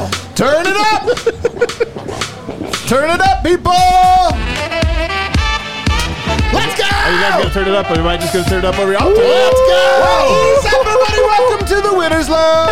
Turn it up! Turn it up, people! Let's go! Are you guys going to turn it up, or am I just going to turn it up over here? Let's go! Hey, everybody, welcome to the Winners Lounge!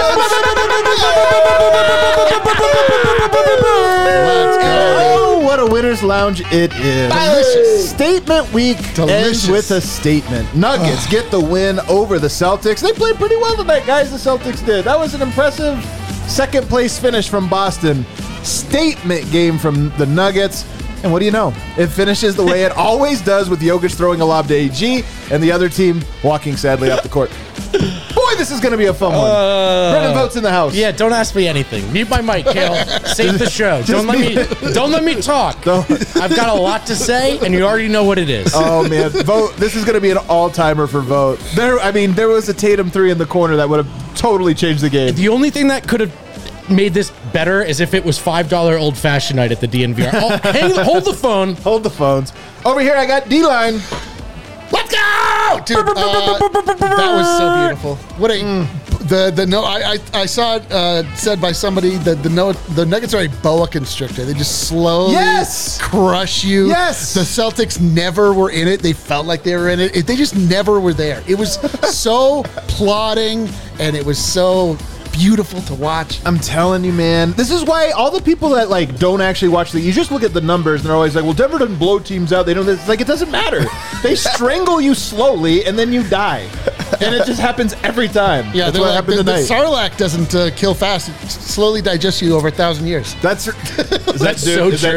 Let's go! Oh, what a Winners Lounge it is. Delicious. Statement week ends with a statement. Nuggets get the win over the Celtics. They played pretty well tonight, guys, the Celtics did. That was an impressive second place finish from Boston. Statement game from the Nuggets. And what do you know? It finishes the way it always does, with Jokic throwing a lob to AG and the other team walking sadly off the court. Boy, this is going to be a fun one. Brendan Votes in the house. Yeah, don't ask me anything. Mute my mic, Kale. Save the show. Don't let me talk. I've got a lot to say, and you already know what it is. Oh, man. Vote. This is going to be an all-timer for Vote. There was a Tatum 3 in the corner that would have totally changed the game. The only thing that could have made this better is if it was $5 old-fashioned night at the DNVR. Hold the phone. Hold the phones. Over here, I got D-Line. Let's go, dude! That was so beautiful. What a I saw it said by somebody that the Nuggets are a boa constrictor. They just slowly crush you. Yes, the Celtics never were in it. They felt like they were in it. They just never were there. It was so plodding, and it was so beautiful to watch. I'm telling you, man. This is why all the people that don't actually watch you just look at the numbers and they're always like, well, Denver doesn't blow teams out. They don't. It's like, it doesn't matter. They strangle you slowly and then you die. And it just happens every time. Yeah, that's what happened tonight. The Sarlacc doesn't kill fast. It slowly digests you over 1,000 years. That's so true. Is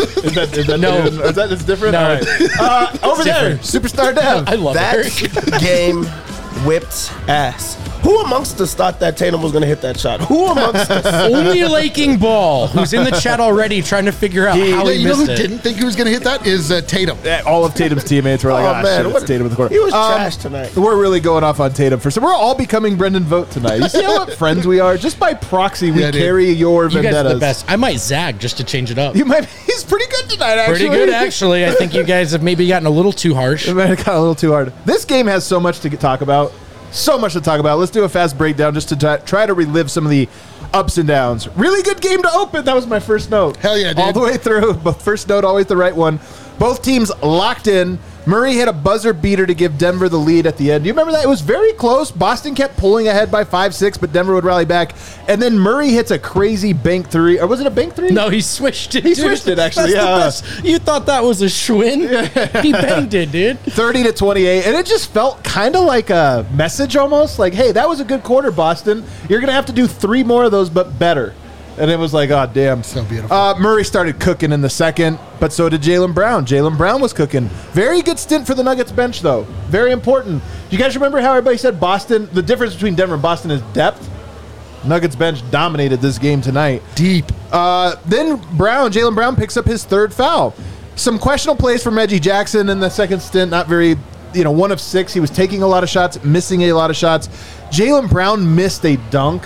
that no. Is that different? No. All right. Over there, Superstar Dev. I love that game whipped ass. Who amongst us thought that Tatum was going to hit that shot? Who amongst us? Only Laking Ball, who's in the chat already trying to figure out how he missed missed it. Didn't think he was going to hit that is Tatum. All of Tatum's teammates were like, shit, it's Tatum in the corner. He was trash tonight. We're really going off on Tatum for some. We're all becoming Brendan Vote tonight. You see what friends we are? Just by proxy, we carry your vendettas. You guys are the best. I might zag just to change it up. He's pretty good tonight, actually. Pretty good, actually. I think you guys have maybe gotten a little too harsh. It might have gotten a little too hard. This game has so much to talk about. So much to talk about. Let's do a fast breakdown just to try to relive some of the ups and downs. Really good game to open. That was my first note. Hell yeah, dude. All the way through. But first note, always the right one. Both teams locked in. Murray hit a buzzer beater to give Denver the lead at the end. Do you remember that? It was very close. Boston kept pulling ahead by 5-6, but Denver would rally back. And then Murray hits a crazy bank three. Or was it a bank three? No, he swished it. He swished it, actually. That's the best. You thought that was a Schwinn? Yeah. He banged it, dude. 30-28. And it just felt kind of like a message almost. Like, hey, that was a good quarter, Boston. You're going to have to do 3 more of those, but better. And it was like, oh, damn. So beautiful. Murray started cooking in the second, but so did Jaylen Brown. Jaylen Brown was cooking. Very good stint for the Nuggets bench, though. Very important. Do you guys remember how everybody said Boston, the difference between Denver and Boston is depth? Nuggets bench dominated this game tonight. Deep. Then Jaylen Brown picks up his 3rd foul. Some questionable plays from Reggie Jackson in the second stint. Not very, 1 of 6. He was taking a lot of shots, missing a lot of shots. Jaylen Brown missed a dunk.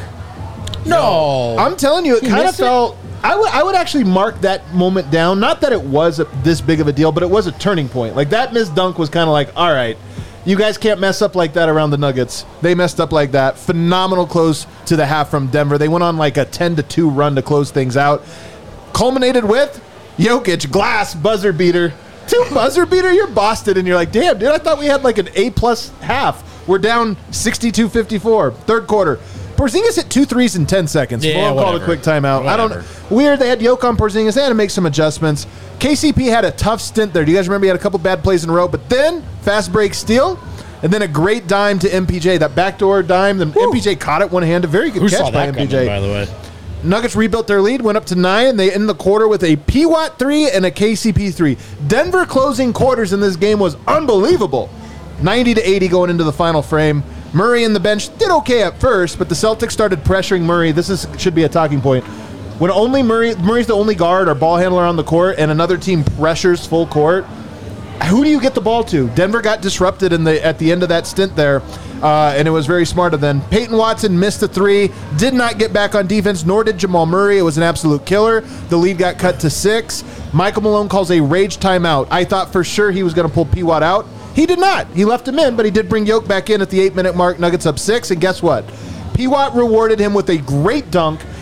No. I'm telling you, it kind of felt... I would actually mark that moment down. Not that it was this big of a deal, but it was a turning point. Like, that missed dunk was kind of like, all right, you guys can't mess up like that around the Nuggets. They messed up like that. Phenomenal close to the half from Denver. They went on like a 10-2 run to close things out. Culminated with Jokic, glass, buzzer beater. 2 buzzer beater? You're Boston, and you're like, damn, dude, I thought we had like an A-plus half. We're down 62-54, third quarter. Porzingis hit 2 threes in 10 seconds. Yeah, Called a quick timeout. Weird. They had Jokic on Porzingis. They had to make some adjustments. KCP had a tough stint there. Do you guys remember he had a couple bad plays in a row? But then fast break steal, and then a great dime to MPJ. That backdoor dime. Then MPJ caught it one-handed. Very good catch by MPJ. Coming, by the way. Nuggets rebuilt their lead, went up to 9. They end the quarter with a P-Watt 3 and a KCP 3. Denver closing quarters in this game was unbelievable. 90-80 going into the final frame. Murray in the bench did okay at first, but the Celtics started pressuring Murray. Should be a talking point. When only Murray's the only guard or ball handler on the court, and another team pressures full court, who do you get the ball to? Denver got disrupted at the end of that stint there, and it was very smart of them. Peyton Watson missed a 3, did not get back on defense, nor did Jamal Murray. It was an absolute killer. The lead got cut to 6. Michael Malone calls a rage timeout. I thought for sure he was going to pull P-Watt out. He did not. He left him in, but he did bring Jokic back in at the 8-minute mark. Nuggets up 6, and guess what? P-Watt rewarded him with a great dunk,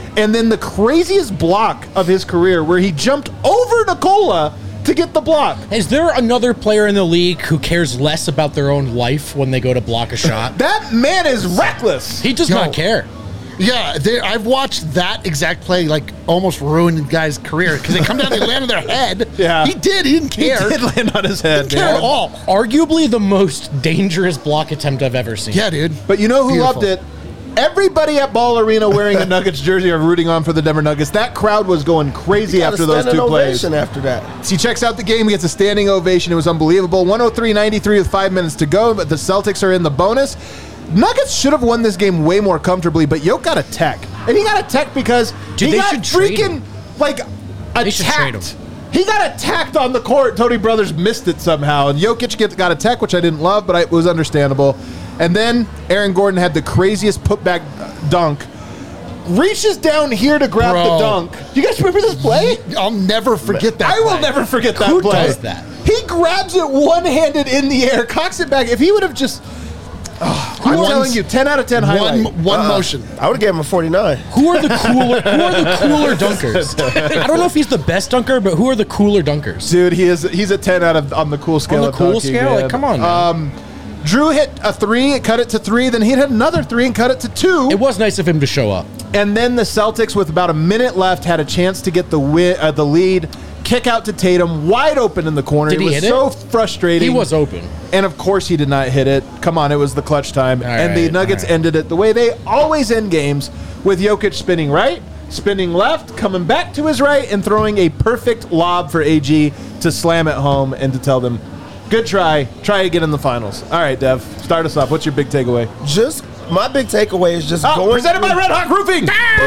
And then the craziest block of his career where he jumped over Nikola to get the block. Is there another player in the league who cares less about their own life when they go to block a shot? That man is reckless. He does not care. Yeah, I've watched that exact play like almost ruin a guy's career because they come down, they land on their head. Yeah. He didn't care. He did land on his head. Didn't care at all. Arguably the most dangerous block attempt I've ever seen. Yeah, dude. But you know who Beautiful. loved it? Everybody at Ball Arena wearing a Nuggets jersey or rooting on for the Denver Nuggets. That crowd was going crazy after those two plays. After that, So he checks out the game, he gets a standing ovation. It was unbelievable. 103-93 with 5 minutes to go, but the Celtics are in the bonus. Nuggets should have won this game way more comfortably, but Yoke got a tech. And he got a tech because he Dude, they got should trade freaking, like, They should trade attacked. him. He got attacked on the court. Tony Brothers missed it somehow. And Jokic got a tech, which I didn't love, but it was understandable. And then Aaron Gordon had the craziest putback dunk. Reaches down here to grab Bro. the dunk. You guys remember this play? I'll never forget that. I will play. never forget that Who play. does that? He grabs it one-handed in the air, cocks it back. If he would have just... I'm One- telling you, 10 out of 10 highlight. One motion. I would have gave him a 49. Who are the cooler dunkers? I don't know if he's the best dunker, but who are the cooler dunkers? Dude, he's a 10 out of on the cool scale. On the of cool dunking, scale? man. Like, come on, man. Drew hit a 3, it cut it to 3, then he hit another 3 and cut it to 2. It was nice of him to show up. And then the Celtics, with about a minute left, had a chance to get the lead. Kick out to Tatum, wide open in the corner. Did he was hit it? so frustrating. He was open. And of course he did not hit it. Come on, it was the clutch time. And the right, Nuggets all right. ended it the way they always end games, with Jokic spinning right, spinning left, coming back to his right, and throwing a perfect lob for AG to slam it home and to tell them, good try again in the finals. All right, Dev, start us off. What's your big takeaway? Just my big takeaway is just going Presented by through- Red Hawk Roofing.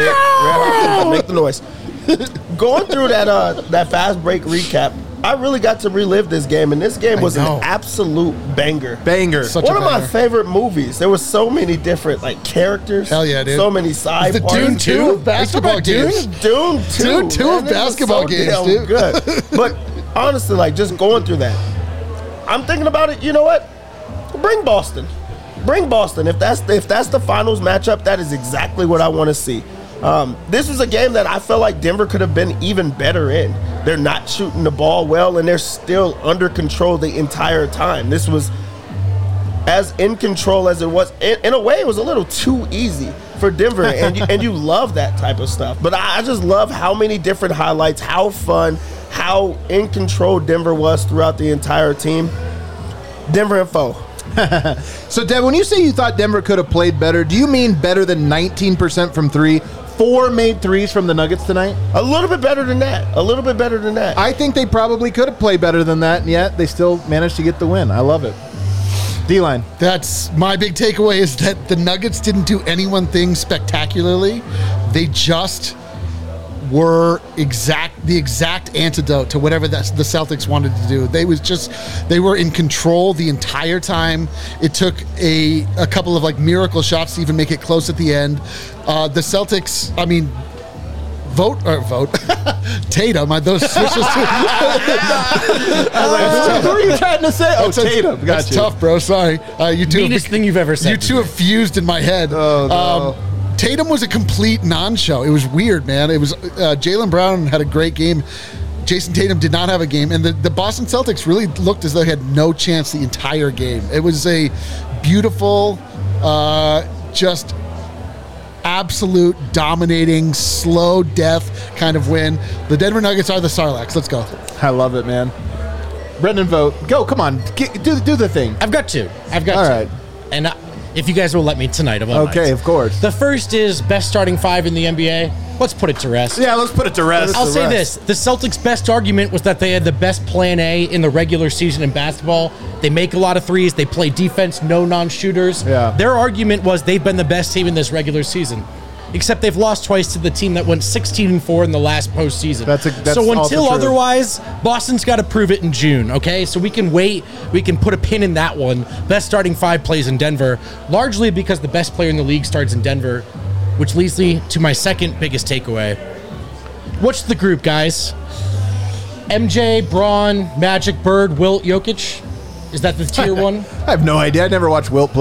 Make the noise. Going through that fast break recap, I really got to relive this game, and this game was an know. absolute banger. Banger. Such One a of my banger. favorite movies. There was so many different Oh, characters. Hell yeah, dude. So many side The parts. Dune 2 of basketball games. Dune 2. Dune 2 of man, it was basketball games, damn dude. Good. But honestly, just going through that, I'm thinking about it. You know what? Bring Boston. Bring Boston. If that's the finals matchup, that is exactly what I want to see. This was a game that I felt like Denver could have been even better in. They're not shooting the ball well, and they're still under control the entire time. This was as in control as it was. In a way, it was a little too easy for Denver, and you love that type of stuff. But I just love how many different highlights, how fun, how in control Denver was throughout the entire team. Denver and foe. So, Dev, when you say you thought Denver could have played better, do you mean better than 19% from 3? 4 made threes from the Nuggets tonight? A little bit better than that. A little bit better than that. I think they probably could have played better than that, and yet they still managed to get the win. I love it. D-line. That's my big takeaway is that the Nuggets didn't do any one thing spectacularly. They just were the exact antidote to whatever the Celtics wanted to do. They were in control the entire time. It took a couple of miracle shots to even make it close at the end. The Celtics, vote Tatum. Those switches. What were you trying to say? Oh, Tatum. Got That's you. tough, bro. Sorry. You two. Meanest thing you've ever said. You two have fused in my head. Oh, no. Tatum was a complete non-show. It was weird, man. It was Jaylen Brown had a great game. Jason Tatum did not have a game, and the Boston Celtics really looked as though they had no chance the entire game. It was a beautiful, just absolute dominating, slow death kind of win. The Denver Nuggets are the Sarlaccs. Let's go. I love it, man. Brendan, vote. Go, come on. Do the thing. I've got two. All two. right. And if you guys will let me tonight, Okay, of course. The first is best starting 5 in the NBA. Let's put it to rest. Yeah, let's put it to rest. I'll say this. The Celtics' best argument was that they had the best plan A in the regular season in basketball. They make a lot of threes. They play defense, no non-shooters. Yeah. Their argument was they've been the best team in this regular season. Except they've lost twice to the team that went 16-4 in the last postseason. That's so also until true. otherwise, Boston's got to prove it in June, okay? So we can wait. We can put a pin in that one. Best starting 5 plays in Denver, largely because the best player in the league starts in Denver, which leads me to my second biggest takeaway. What's the group, guys? MJ, Braun, Magic, Bird, Wilt, Jokic? Is that the tier one? I have no idea. I never watched Wilt play.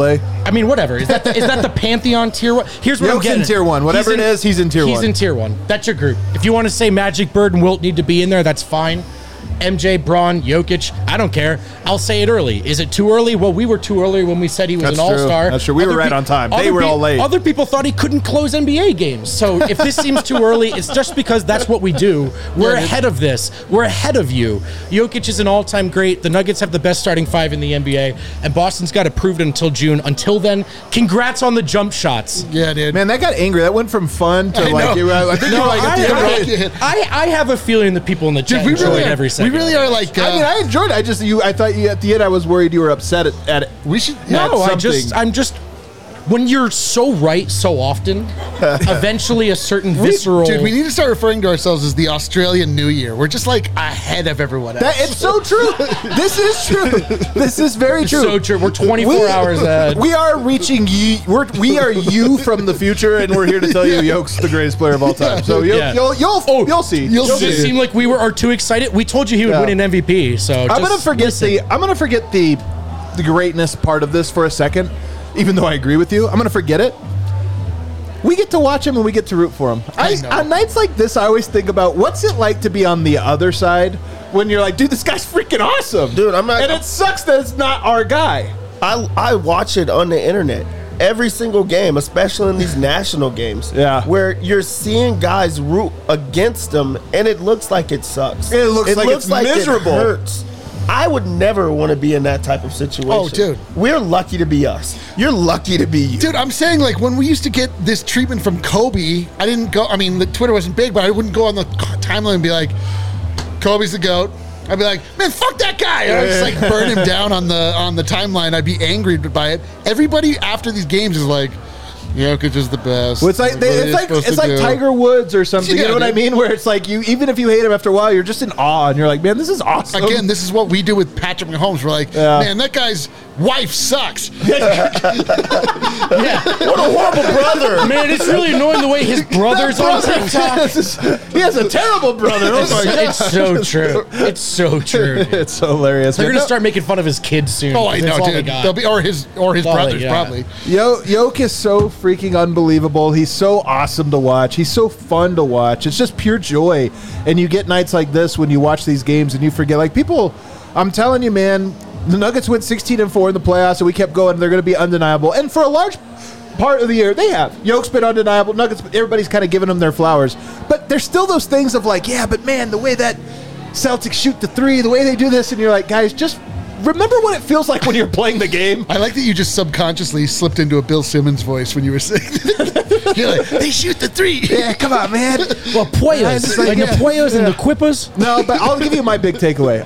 I mean, whatever. Is that the Pantheon tier one? Here's what I'm Jokic getting. in tier one. Whatever it is, he's in tier one. He's in tier one. That's your group. If you want to say Magic, Bird, and Wilt need to be in there, that's fine. MJ, Braun, Jokic, I don't care. I'll say it early. Is it too early? Well, we were too early when we said he was That's an true. all-star. That's true. We were right on time. They were all late. Other people thought he couldn't close NBA games. So if this seems too early, it's just because that's what we do. We're ahead of this. We're ahead of you. Jokic is an all-time great. The Nuggets have the best starting five in the NBA, and Boston's got to prove it until June. Until then, congrats on the jump shots. Yeah, dude. Man, that got angry. That went from fun to like. I think you're like at the end. I have a feeling that people in the chat Dude, enjoyed every second. We really are like. I mean, I enjoyed it. I thought you at the end. I was worried you were upset at it. We should. No, I'm just. When you're so right so often, eventually a certain visceral. Dude, we need to start referring to ourselves as the Australian New Year. We're just like ahead of everyone else. It's so true. This is true. This is very true. So true. We're 24 hours ahead. We are reaching you. We are you from the future, and we're here to tell you Yoke's the greatest player of all time. So you'll see. You'll Does see. it seem like we are too excited? We told you he would win an MVP. So I'm gonna forget the greatness part of this for a second. Even though I agree with you, I'm going to forget it. We get to watch him and we get to root for him. On nights like this, I always think about what's it like to be on the other side when you're like, dude, this guy's freaking awesome. Dude, I'm not. And it sucks that it's not our guy. I watch it on the internet every single game, especially in these national games. Yeah. Where you're seeing guys root against them, and it looks like it sucks. It looks like it's miserable. It hurts. I would never want to be in that type of situation. Oh, dude. We're lucky to be us. You're lucky to be you. Dude, I'm saying, like, when we used to get this treatment from Kobe, I didn't go, I mean, the Twitter wasn't big, but I wouldn't go on the timeline and be like, Kobe's the GOAT. I'd be like, man, fuck that guy. And I'd just, like, burn him down on the timeline. I'd be angry by it. Everybody after these games is like, Jokic is the best. Well, it's like Tiger Woods or something. Yeah, you know what I mean? Where it's like even if you hate him after a while, you're just in awe and you're like, man, this is awesome. Again, this is what we do with Patrick Mahomes. We're like, man, that guy's wife sucks. Yeah. What a horrible brother. Man, it's really annoying the way his brother's on TikTok. He has a terrible brother. Oh my God. It's so true. It's so true. It's so hilarious. They're man. gonna start making fun of his kids soon. Oh, I That's know, all they dude. got. They'll be, or his brothers, probably. Yoke is so freaking unbelievable. He's so awesome to watch. He's so fun to watch. It's just pure joy. And you get nights like this when you watch these games and you forget. Like people, I'm telling you, man, the Nuggets went 16-4 in the playoffs, and we kept going. They're going to be undeniable. And for a large part of the year, they have. Yoke's been undeniable. Nuggets, everybody's kind of giving them their flowers. But there's still those things of like, yeah, but man, the way that Celtics shoot the three, the way they do this, and you're like, guys, just remember what it feels like when you're playing the game. I like that you just subconsciously slipped into a Bill Simmons voice when you were saying you're like, they shoot the three. Yeah, come on, man. Well, Poyos, like the Poyos and the Quippers. No, but I'll give you my big takeaway.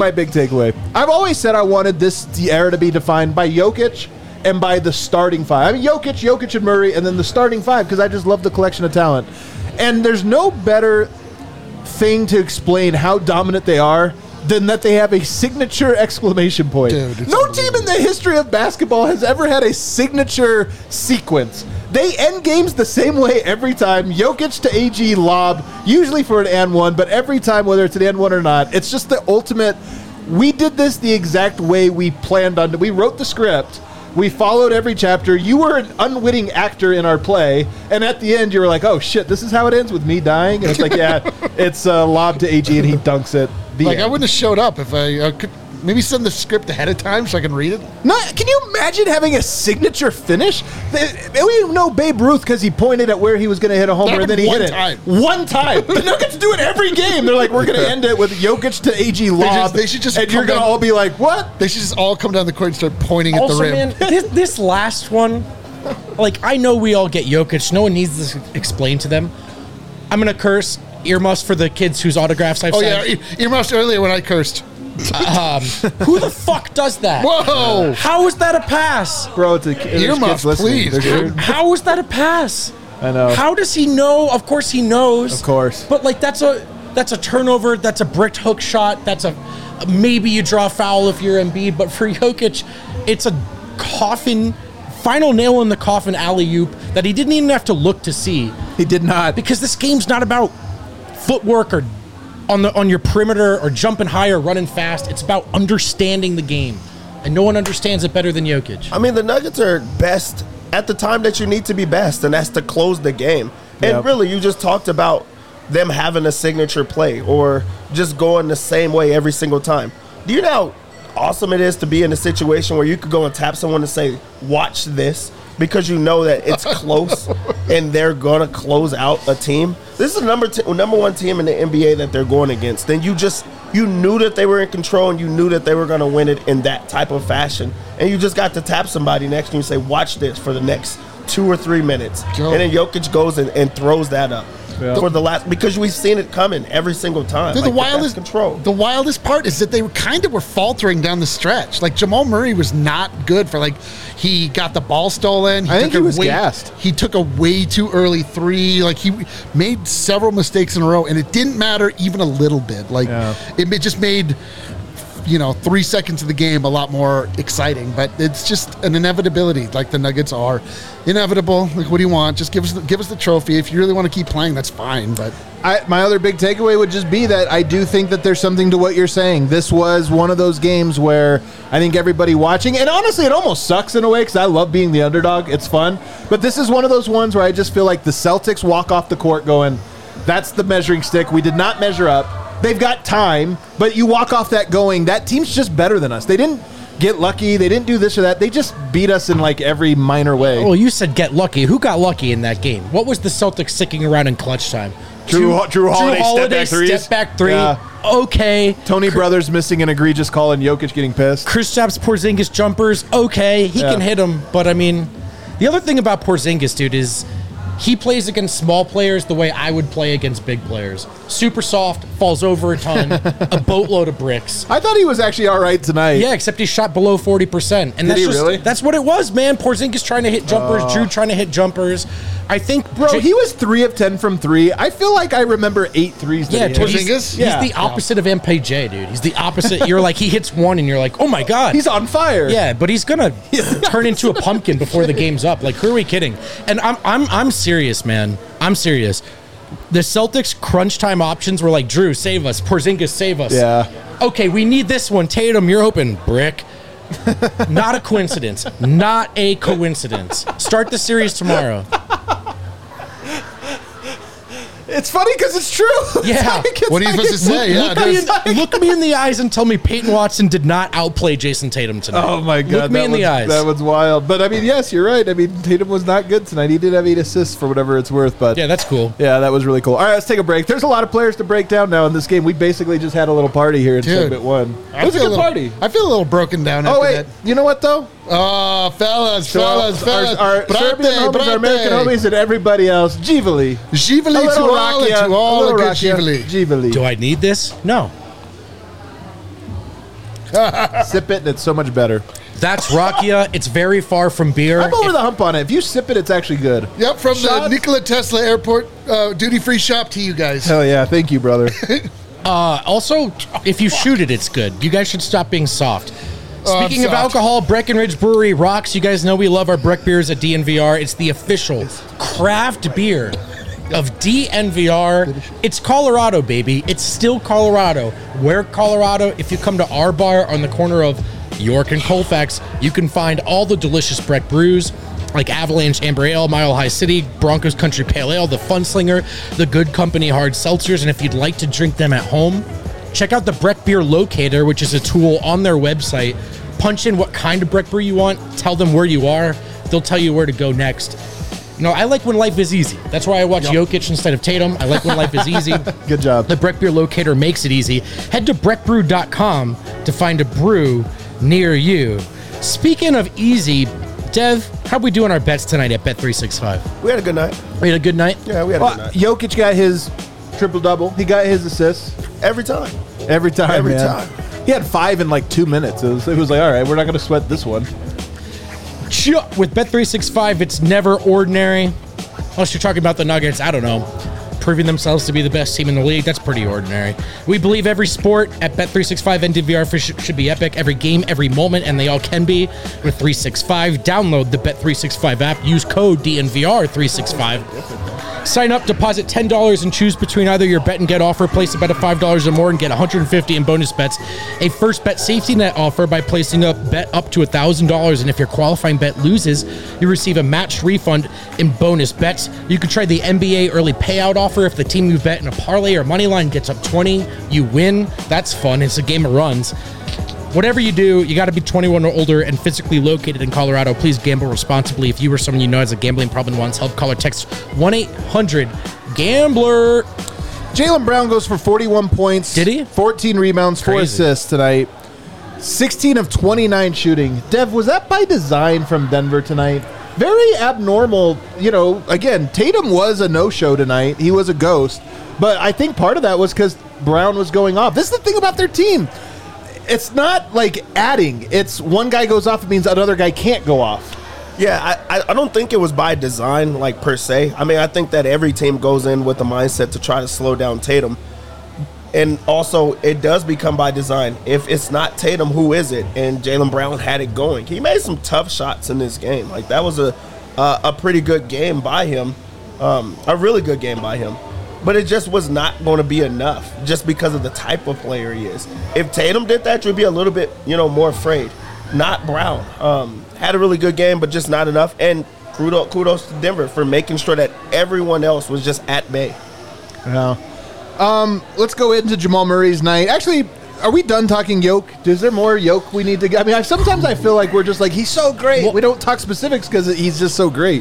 I've always said I wanted the era to be defined by Jokic and by the starting five. I mean, Jokic and Murray, and then the starting five, because I just love the collection of talent. And there's no better thing to explain how dominant they are than that they have a signature exclamation point. Dude, no team in the history of basketball has ever had a signature sequence. They end games the same way every time. Jokic to AG lob, usually for an and one, but every time, whether it's an and one or not, it's just the ultimate. We did this the exact way we planned on. We wrote the script. We followed every chapter. You were an unwitting actor in our play, and at the end, you were like, "Oh shit, this is how it ends with me dying." And it's like, yeah, it's a lob to AG, and he dunks it. Like, I wouldn't have showed up if I could maybe send the script ahead of time so I can read it. No, can you imagine having a signature finish? We know Babe Ruth because he pointed at where he was going to hit a homer and then he hit it. One time. The Nuggets do it every game. They're like, we're going to end it with Jokic to AG lob. They should just and you're going to all be like, what? They should just all come down the court and start pointing at the rim. Man, this last one, like, I know we all get Jokic. No one needs this explained to them. I'm going to curse. Earmuffs for the kids whose autographs I've signed. Yeah, earmuffs earlier when I cursed. Who the fuck does that? Whoa! How is that a pass? Bro, it's a earmuffs, please. How is that a pass? I know. How does he know? Of course he knows. Of course. But like that's a turnover. That's a bricked hook shot. That's a maybe you draw foul if you're Embiid. But for Jokic, it's a final nail in the coffin alley-oop that he didn't even have to look to see. He did not. Because this game's not about footwork or on your perimeter or jumping high or running fast. It's about understanding the game. and no one understands it better than Jokic. I mean, the Nuggets are best at the time that you need to be best, and that's to close the game. And Yep. really, you just talked about them having a signature play or just going the same way every single time. Do you know how awesome it is to be in a situation where you could go and tap someone and say, watch this, because you know that it's close and they're going to close out a team? This is the number one team in the NBA that they're going against. And you knew that they were in control and you knew that they were going to win it in that type of fashion. And you just got to tap somebody next to you and say, watch this for the next 2 or 3 minutes. Joe. And then Jokic goes and throws that up. Yeah. For the last, because we've seen it coming every single time. Dude, Like, the wildest control. The wildest part is that they were faltering down the stretch. Like Jamal Murray was not good for he got the ball stolen. I think he was way, gassed. He took a way too early 3. Like he made several mistakes in a row, and it didn't matter even a little bit. Like it just made 3 seconds of the game a lot more exciting. But it's just an inevitability. Like the Nuggets are inevitable. Like what do you want? Just give us the trophy. If you really want to keep playing, that's fine. But My other big takeaway would just be that I do think that there's something to what you're saying. This was one of those games where I think everybody watching, and honestly, it almost sucks in a way because I love being the underdog. It's fun. But this is one of those ones where I just feel like the Celtics walk off the court going, that's the measuring stick. We did not measure up. They've got time, but you walk off that going, that team's just better than us. They didn't get lucky. They didn't do this or that. They just beat us in every minor way. Well, you said get lucky. Who got lucky in that game? What was the Celtics sticking around in clutch time? Drew Holiday step back three. Yeah. Okay. Tony Brothers missing an egregious call and Jokic getting pissed. Kristaps Porzingis jumpers. Okay, he can hit them, but I mean, the other thing about Porzingis, dude, is he plays against small players the way I would play against big players. Super soft, falls over a ton, a boatload of bricks. I thought he was actually all right tonight. Yeah, except he shot below 40%. And Did he really? That's what it was, man. Porzingis trying to hit jumpers, Drew trying to hit jumpers. I think, Bro, he was 3 of 10 from 3. I feel like I remember 8 threes. yeah, that he hit. Porzingis? he's the opposite of MPJ, dude. He's the opposite. You're like, he hits one and you're like, oh my God. He's on fire. Yeah, but he's gonna turn into a pumpkin before the game's up. Like, who are we kidding? And I'm serious, man. I'm serious. The Celtics crunch time options were like, Drew, save us. Porzingis, save us. Yeah. Okay, we need this one. Tatum, you're open. Brick. Not a coincidence. Not a coincidence. Start the series tomorrow. It's funny because it's true. Yeah. what are you supposed to say? Look me in the eyes and tell me Peyton Watson did not outplay Jason Tatum tonight. Oh my God. Look me in the eyes. That was wild. But I mean, yes, you're right. I mean, Tatum was not good tonight. He did have 8 assists for whatever it's worth. But Yeah, that's cool. yeah, that was really cool. All right, let's take a break. There's a lot of players to break down now in this game. We basically just had a little party here in Dude, segment 1. It was a good party. I feel a little broken down Oh, after wait. that. You know what, though? Oh, fellas. Our Serbian homies, our American homies, and everybody else, Jivali. Jivali to all and to all the good Jivali. Jivali. Do I need this? No. Sip it, and it's so much better. That's Rakia. It's very far from beer. I'm over the hump on it. If you sip it, it's actually good. Yep, from the Shot. Nikola Tesla Airport duty-free shop to you guys. Hell yeah. Thank you, brother. Also, if you shoot it, it's good. You guys should stop being soft. Speaking of soft. alcohol, Breckenridge Brewery rocks. You guys know we love our Breck beers at DNVR. It's the official craft beer of DNVR. It's Colorado, baby. It's still Colorado. Where Colorado? If you come to our bar on the corner of York and Colfax, you can find all the delicious Breck brews like Avalanche Amber Ale, Mile High City, Broncos Country Pale Ale, the Funslinger, the Good Company Hard Seltzers. And if you'd like to drink them at home, check out the Breck Beer Locator, which is a tool on their website. Punch in what kind of Breck brew you want. Tell them where you are. They'll tell you where to go next. You know, I like when life is easy. That's why I watch Jokic instead of Tatum. I like when life is easy. Good job. The Breck Beer Locator makes it easy. Head to breckbrew.com to find a brew near you. Speaking of easy, Dev, how we doing our bets tonight at Bet365? We had a good night. We had a good night? Yeah, we had a good night. Jokic got his triple-double. He got his assists. Every time. Every time, Every man. time. He had 5 in 2 minutes. It was like, all right, we're not going to sweat this one. With Bet365, it's never ordinary. Unless you're talking about the Nuggets, I don't know. Proving themselves to be the best team in the league, that's pretty ordinary. We believe every sport at Bet365 and DNVR should be epic. Every game, every moment, and they all can be with 365. Download the Bet365 app. Use code DNVR365. Sign up, deposit $10 and choose between either your bet and get offer. Place a bet of $5 or more and get $150 in bonus bets. A first bet safety net offer by placing a bet up to $1,000. And if your qualifying bet loses, you receive a matched refund in bonus bets. You can try the NBA early payout offer. If the team you bet in a parlay or money line gets up 20, you win. That's fun. It's a game of runs. Whatever you do, you got to be 21 or older and physically located in Colorado. Please gamble responsibly. If you or someone you know has a gambling problem and wants help, call or text 1-800-GAMBLER. Jaylen Brown goes for 41 points. Did he? 14 rebounds, 4 Crazy. assists tonight. 16 of 29 shooting. Dev, was that by design from Denver tonight? Very abnormal. You know, again, Tatum was a no-show tonight. He was a ghost. But I think part of that was because Brown was going off. This is the thing about their team. It's not like adding. It's one guy goes off, it means another guy can't go off. Yeah, I don't think it was by design, like, per se. I mean, I think that every team goes in with the mindset to try to slow down Tatum. And also, it does become by design. If it's not Tatum, who is it? And Jaylen Brown had it going. He made some tough shots in this game. Like, that was a pretty good game by him, a really good game by him. But it just was not going to be enough just because of the type of player he is. If Tatum did that, you'd be a little bit, more afraid. Not Brown. Had a really good game, but just not enough. And kudos to Denver for making sure that everyone else was just at bay. Yeah. Let's go into Jamal Murray's night. Actually, are we done talking Yoke? Is there more Yoke we need to get? I mean, sometimes I feel like we're just like, he's so great. We don't talk specifics because he's just so great.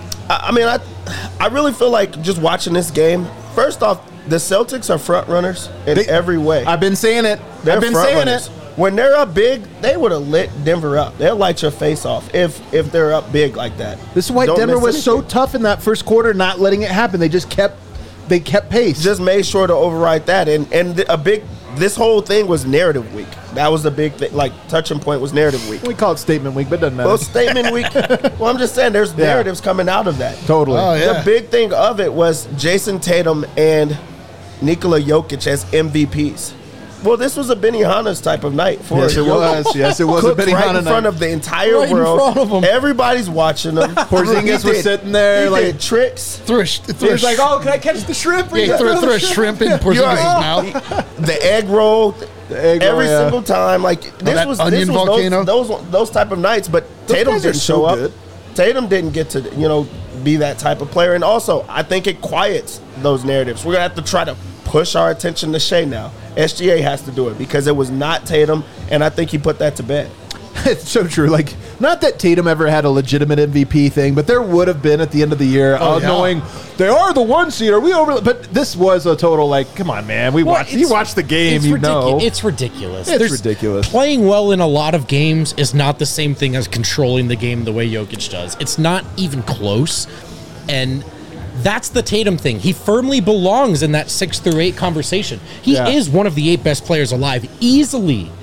I really feel like just watching this game, first off, the Celtics are front runners in every way. I've been saying it. They're I've been front saying runners. it. When they're up big, they would have lit Denver up. They'll light your face off if they're up big like that. This is why Don't Denver miss was so anything. tough in that first quarter, not letting it happen. They kept pace. Just made sure to override that. And this whole thing was narrative week. That was the big thing. Like, touching point was narrative week. We call it statement week, but it doesn't matter. Well, statement week. Well, I'm just saying there's narratives coming out of that. Totally. Oh, yeah. The big thing of it was Jason Tatum and Nikola Jokic as MVPs. Well, this was a Benihana's type of night for Yes, it Jokic. was. Yes, it was a Cooked Benihana right in front night. of the entire Right in world. front of 'em. Everybody's watching them. Porzingis was sitting there, he like- did tricks. He was like, "Oh, can I catch the shrimp?" Yeah, throw a shrimp in Porzingis' mouth. The egg roll, egg roll, every yeah. single time. Like this that was onion this was volcano? those type of nights. But Tatum guys are didn't so show up. good. Tatum didn't get to be that type of player. And also, I think it quiets those narratives. We're gonna have to try to push our attention to Shea now. SGA has to do it because it was not Tatum, and I think he put that to bed. It's so true. Like, not that Tatum ever had a legitimate MVP thing, but there would have been at the end of the year, yeah. knowing they are the 1 seed. Are we over? But this was a total like, come on, man. You watched the game, you know. It's ridiculous. It's ridiculous. Playing well in a lot of games is not the same thing as controlling the game the way Jokic does. It's not even close. And that's the Tatum thing. He firmly belongs in that 6 through 8 conversation. He Yeah. is one of the 8 best players alive, easily.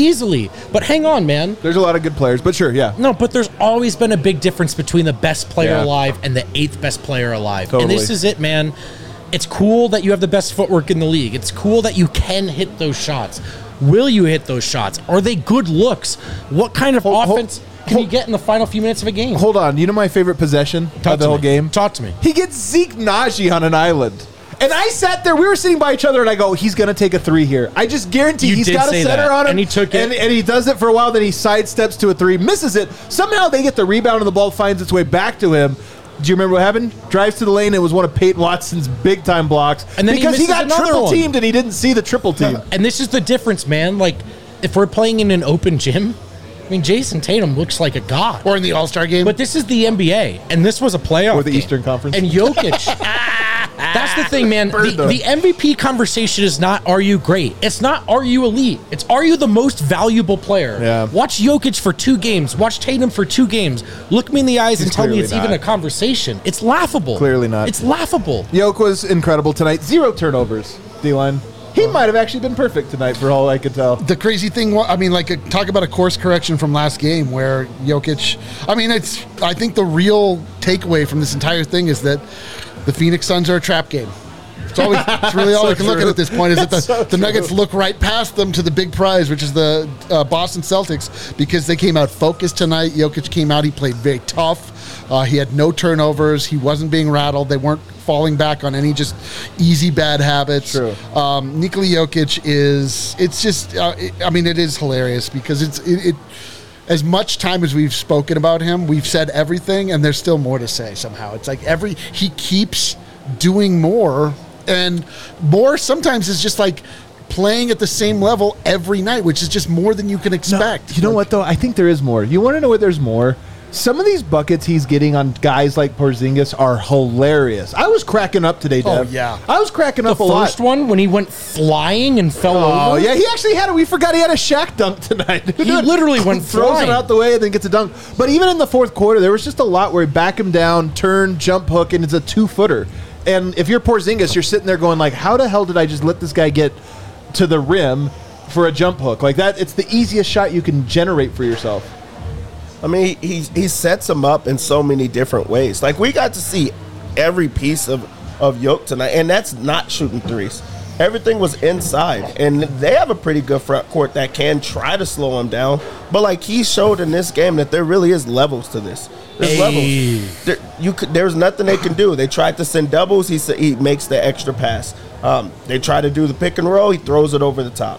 But hang on, man. There's a lot of good players, but sure, yeah. No, but there's always been a big difference between the best player Yeah. alive and the 8th best player alive. Totally. And this is it, man. It's cool that you have the best footwork in the league. It's cool that you can hit those shots. Will you hit those shots? Are they good looks? What kind of offense can you get in the final few minutes of a game? Hold on. You know my favorite possession of the whole game? Talk to me. He gets Zeke Naji on an island. And I sat there, we were sitting by each other, and I go, he's going to take a 3 here. I just guarantee You he's did got a say setter that, on him. and he took it. And he does it for a while, then he sidesteps to a 3, misses it. Somehow they get the rebound, and the ball finds its way back to him. Do you remember what happened? Drives to the lane. It was one of Peyton Watson's big-time blocks. And then he because he misses got another triple-teamed, one. and he didn't see the triple team. And this is the difference, man. Like, if we're playing in an open gym, I mean, Jason Tatum looks like a god. Or in the All-Star game. But this is the NBA, and this was a playoff Or the game. Eastern Conference. And Jokic, that's the thing, man. The MVP conversation is not, are you great? It's not, are you elite? It's, are you the most valuable player? Yeah. Watch Jokic for 2 games. Watch Tatum for 2 games. Look me in the eyes and tell me clearly it's even not. a conversation. It's laughable. Clearly not. It's laughable. Yoke was incredible tonight. 0 turnovers, D-line. He might have actually been perfect tonight for all I could tell. The crazy thing, I mean, like, talk about a course correction from last game where Jokic, I mean, I think the real takeaway from this entire thing is that the Phoenix Suns are a trap game. It's really all So we can look at true. at this point is that That's so the Nuggets true. look right past them to the big prize, which is the Boston Celtics, because they came out focused tonight. Jokic came out, he played very tough. He had no turnovers. He wasn't being rattled. They weren't falling back on any just easy bad habits. True. Nikola Jokic it is hilarious because it as much time as we've spoken about him, we've said everything, and there's still more to say somehow. It's like he keeps doing more, and more sometimes is just like playing at the same level every night, which is just more than you can expect. No, you know what, though? I think there is more. You want to know what there's more? Some of these buckets he's getting on guys like Porzingis are hilarious. I was cracking up today, Dev. Oh, yeah. I was cracking up a lot. The first one, when he went flying and fell over. Oh, yeah. He actually had we forgot he had a Shaq dunk tonight. He literally went throws flying. it out the way and then gets a dunk. But even in the fourth quarter, there was just a lot where he back him down, turn, jump hook, and it's a 2-footer. And if you're Porzingis, you're sitting there going like, how the hell did I just let this guy get to the rim for a jump hook? Like that, it's the easiest shot you can generate for yourself. I mean, he sets them up in so many different ways. Like, we got to see every piece of Yoke tonight, and that's not shooting threes. Everything was inside, and they have a pretty good front court that can try to slow him down. But, like, he showed in this game that there really is levels to this. There's levels. There's nothing they can do. They tried to send doubles. He makes the extra pass. They try to do the pick and roll. He throws it over the top.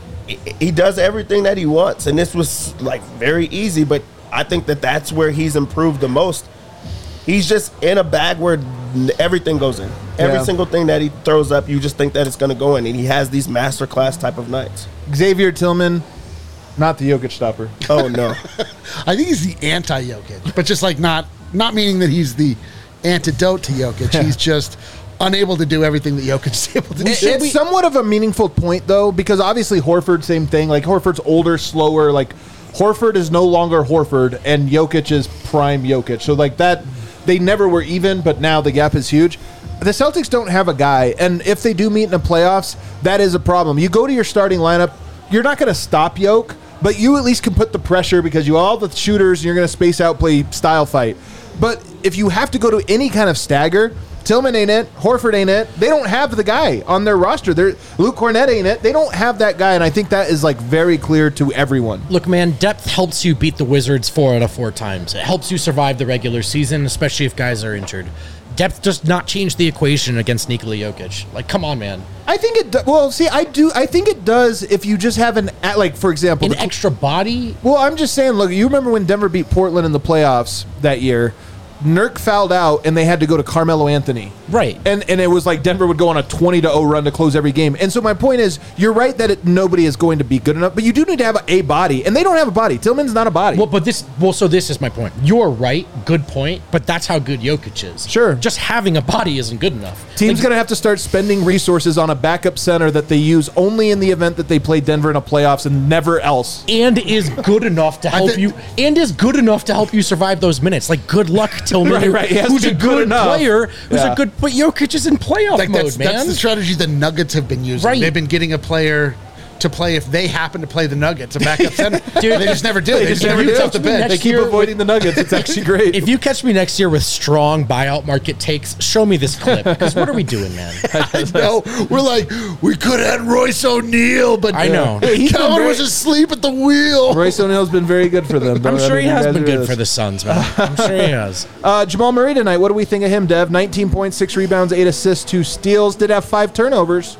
He does everything that he wants, and this was, like, very easy, but I think that's where he's improved the most. He's just in a bag where everything goes in. Every single thing that he throws up, you just think that it's going to go in, and he has these masterclass type of nights. Xavier Tillman, not the Jokic stopper. Oh, no. I think he's the anti-Jokic, but just like not meaning that he's the antidote to Jokic. He's just unable to do everything that Jokic is able to do. It's somewhat of a meaningful point, though, because obviously Horford, same thing. Like, Horford's older, slower. Like, Horford is no longer Horford, and Jokic is prime Jokic. So, like, that, they never were even, but now the gap is huge. The Celtics don't have a guy, and if they do meet in the playoffs, that is a problem. You go to your starting lineup, you're not going to stop Jokic, but you at least can put the pressure because you all the shooters, and you're going to space out, play style fight. But if you have to go to any kind of stagger, Tillman ain't it. Horford ain't it. They don't have the guy on their roster. Luke Cornett ain't it. They don't have that guy, and I think that is like very clear to everyone. Look, man, depth helps you beat the Wizards 4 out of 4 times. It helps you survive the regular season, especially if guys are injured. Depth does not change the equation against Nikola Jokic. Like, come on, man. I think it well, see, I think it does if you just have like, for example, An extra body? Well, I'm just saying, look, you remember when Denver beat Portland in the playoffs that year? Nurk fouled out, and they had to go to Carmelo Anthony. Right. And it was like Denver would go on a 20-0 run to close every game. And so my point is, you're right that nobody is going to be good enough, but you do need to have a body, and they don't have a body. Tillman's not a body. So this is my point. You're right, good point, but that's how good Jokic is. Sure. Just having a body isn't good enough. Team's going to have to start spending resources on a backup center that they use only in the event that they play Denver in a playoffs and never else. And is good enough to help you. And is good enough to help you survive those minutes. Like, good luck, Tillman. Right. Who's a good player? Who's Yeah. a good? But Jokic is in playoff mode, man. That's the strategy the Nuggets have been using. Right. They've been getting a player to play if they happen to play the Nuggets, a backup center. Dude, they just never do. They just never do off the bench. They keep avoiding the Nuggets. It's actually great. If you catch me next year with strong buyout market takes, show me this clip. Because what are we doing, man? I know. We're like, we could have had Royce O'Neal, but I know. Calvin was asleep at the wheel. Royce O'Neal's been very good for them. I'm sure he has been good for for the Suns, man. I'm sure he has. Jamal Murray tonight, what do we think of him, Dev? 19 points, 6 rebounds, 8 assists, 2 steals. Did have 5 turnovers.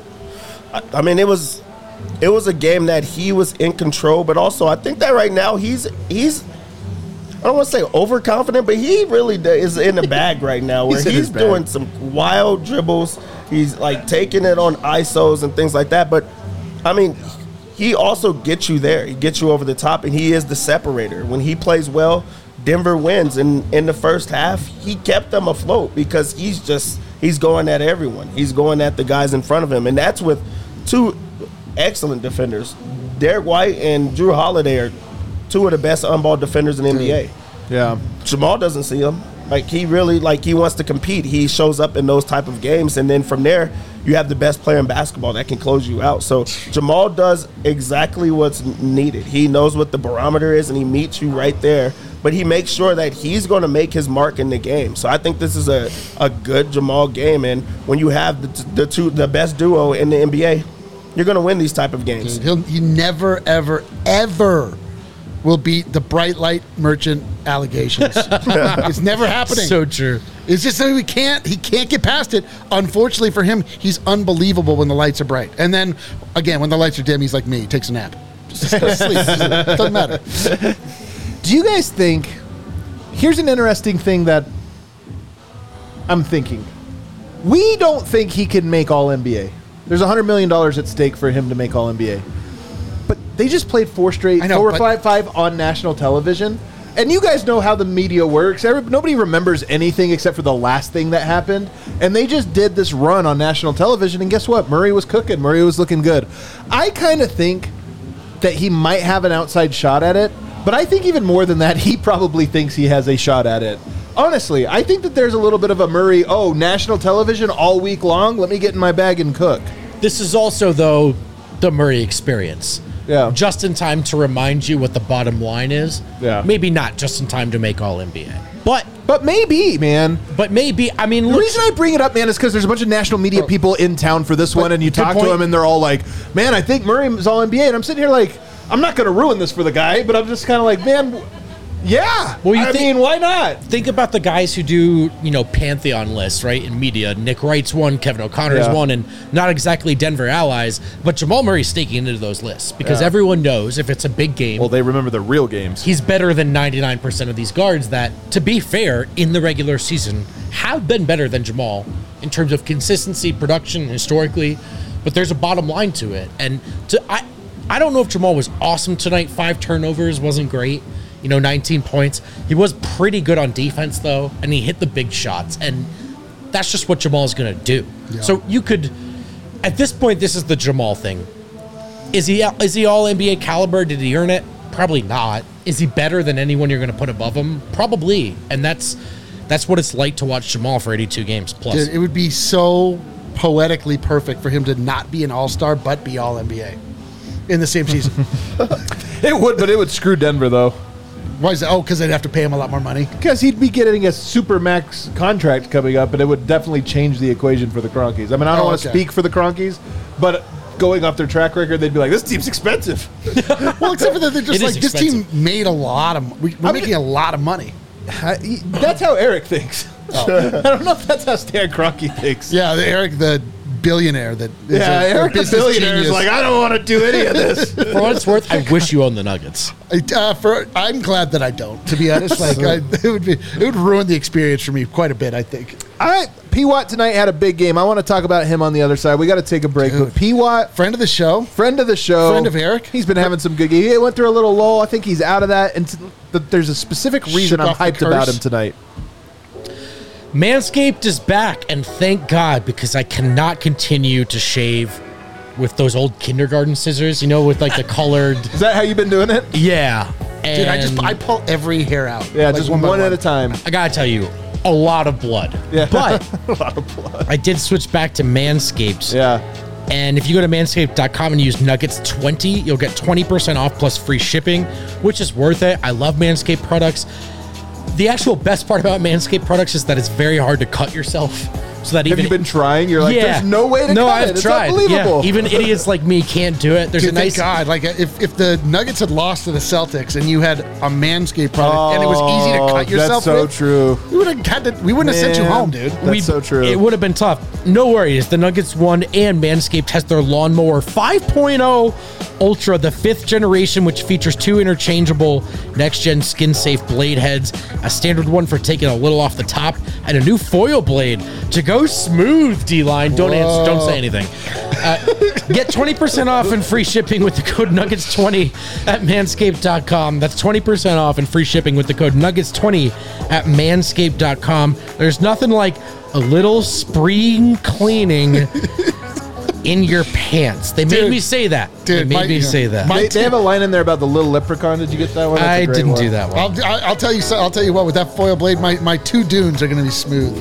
I mean, it was a game that he was in control, but also I think that right now he's I don't want to say overconfident, but he really is in the bag right now where he's doing some wild dribbles. He's like taking it on ISOs and things like that. But I mean, he also gets you there. He gets you over the top, and he is the separator. When he plays well, Denver wins. And in the first half, he kept them afloat because he's going at everyone. He's going at the guys in front of him, and that's with 2 excellent defenders. Derek White and Drew Holiday are 2 of the best on-ball defenders in the NBA. Yeah. Jamal doesn't see him. Like, he really, he wants to compete. He shows up in those type of games, and then from there, you have the best player in basketball that can close you out. So Jamal does exactly what's needed. He knows what the barometer is, and he meets you right there. But he makes sure that he's going to make his mark in the game. So I think this is a good Jamal game, and when you have the best duo in the NBA, you're going to win these type of games. He never, ever, ever will beat the bright light merchant allegations. It's never happening. So true. It's just that he can't get past it. Unfortunately for him, he's unbelievable when the lights are bright. And then, again, when the lights are dim, he's like me. He takes a nap. Just sleep. Doesn't matter. Do you guys think, here's an interesting thing that I'm thinking. We don't think he can make All-NBA. There's $100 million at stake for him to make All-NBA. But they just played 4 straight, 4 or 5 on national television. And you guys know how the media works. Nobody remembers anything except for the last thing that happened. And they just did this run on national television. And guess what? Murray was cooking. Murray was looking good. I kind of think that he might have an outside shot at it. But I think even more than that, he probably thinks he has a shot at it. Honestly, I think that there's a little bit of a Murray, national television all week long. Let me get in my bag and cook. This is also, though, the Murray experience. Yeah. Just in time to remind you what the bottom line is. Yeah. Maybe not just in time to make All-NBA. But maybe, man. But maybe, I mean, The reason I bring it up, man, is because there's a bunch of national media people in town for this one, and you talk to them, and they're all like, man, I think Murray is All-NBA. And I'm sitting here like, I'm not going to ruin this for the guy, but I'm just kind of like, man, yeah. Well, I mean, why not? Think about the guys who do, Pantheon lists, right, in media. Nick Wright's one, Kevin O'Connor's one, and not exactly Denver allies, but Jamal Murray's sneaking into those lists because everyone knows if it's a big game, Well, they remember the real games. he's better than 99% of these guards that, to be fair, in the regular season, have been better than Jamal in terms of consistency, production, historically, but there's a bottom line to it. And I don't know if Jamal was awesome tonight. 5 turnovers wasn't great. 19 points. He was pretty good on defense, though, and he hit the big shots. And that's just what Jamal's going to do. Yeah. So you could, at this point, this is the Jamal thing. Is he all NBA caliber? Did he earn it? Probably not. Is he better than anyone you're going to put above him? Probably. And that's what it's like to watch Jamal for 82 games plus. Dude, it would be so poetically perfect for him to not be an all-star but be all-NBA in the same season. It would, but it would screw Denver, though. Why is that? Oh, because they'd have to pay him a lot more money. Because he'd be getting a super max contract coming up, and it would definitely change the equation for the Cronkies. I mean, I don't want to speak for the Cronkies, but going off their track record, they'd be like, this team's expensive. Well, except for that they're just like, this team made a lot of we're making a lot of money. That's how Eric thinks. I don't know if that's how Stan Kroenke thinks. Yeah, Eric, the billionaire that is Eric the billionaire is like, I don't want to do any of this. For what it's worth, I wish you owned the Nuggets. I'm glad that I don't, to be honest. It would ruin the experience for me quite a bit, I think. All right, P. Watt tonight had a big game. I want to talk about him on the other side. We got to take a break. But P. Watt, friend of the show, friend of Eric. He's been having some good games. He went through a little lull. I think he's out of that. And there's a specific reason I'm hyped about him tonight. Manscaped is back, and thank God, because I cannot continue to shave with those old kindergarten scissors, with like the colored. Is that how you've been doing it? Yeah. Dude, I pull every hair out. Yeah, like just one at a time. I gotta tell you, a lot of blood. Yeah. But a lot of blood. I did switch back to Manscaped. Yeah. And if you go to manscaped.com and use Nuggets20, you'll get 20% off plus free shipping, which is worth it. I love Manscaped products. The actual best part about Manscaped products is that it's very hard to cut yourself. So that Have you been trying? You're like, there's no way to cut it. I've it's tried. unbelievable. Yeah. Even idiots like me can't do it. There's a nice. Thank God. Like if the Nuggets had lost to the Celtics and you had a Manscaped product and it was easy to cut yourself, that's so true. We wouldn't have sent you home, dude. That's so true. It would have been tough. No worries. The Nuggets won, and Manscaped has their Lawnmower 5.0 Ultra, the 5th generation, which features 2 interchangeable next-gen skin-safe blade heads, a standard one for taking a little off the top, and a new foil blade to go smooth. D-line, don't say anything. Get 20% off and free shipping with the code Nuggets20 at manscaped.com. That's 20% off and free shipping with the code Nuggets20 at manscaped.com. There's nothing like a little spring cleaning in your pants. They made me say that. They made me say that. They have a line in there about the little leprechaun. Did you get that one? I didn't do that one. I'll tell you. I'll tell you what. With that foil blade, my 2 dunes are going to be smooth.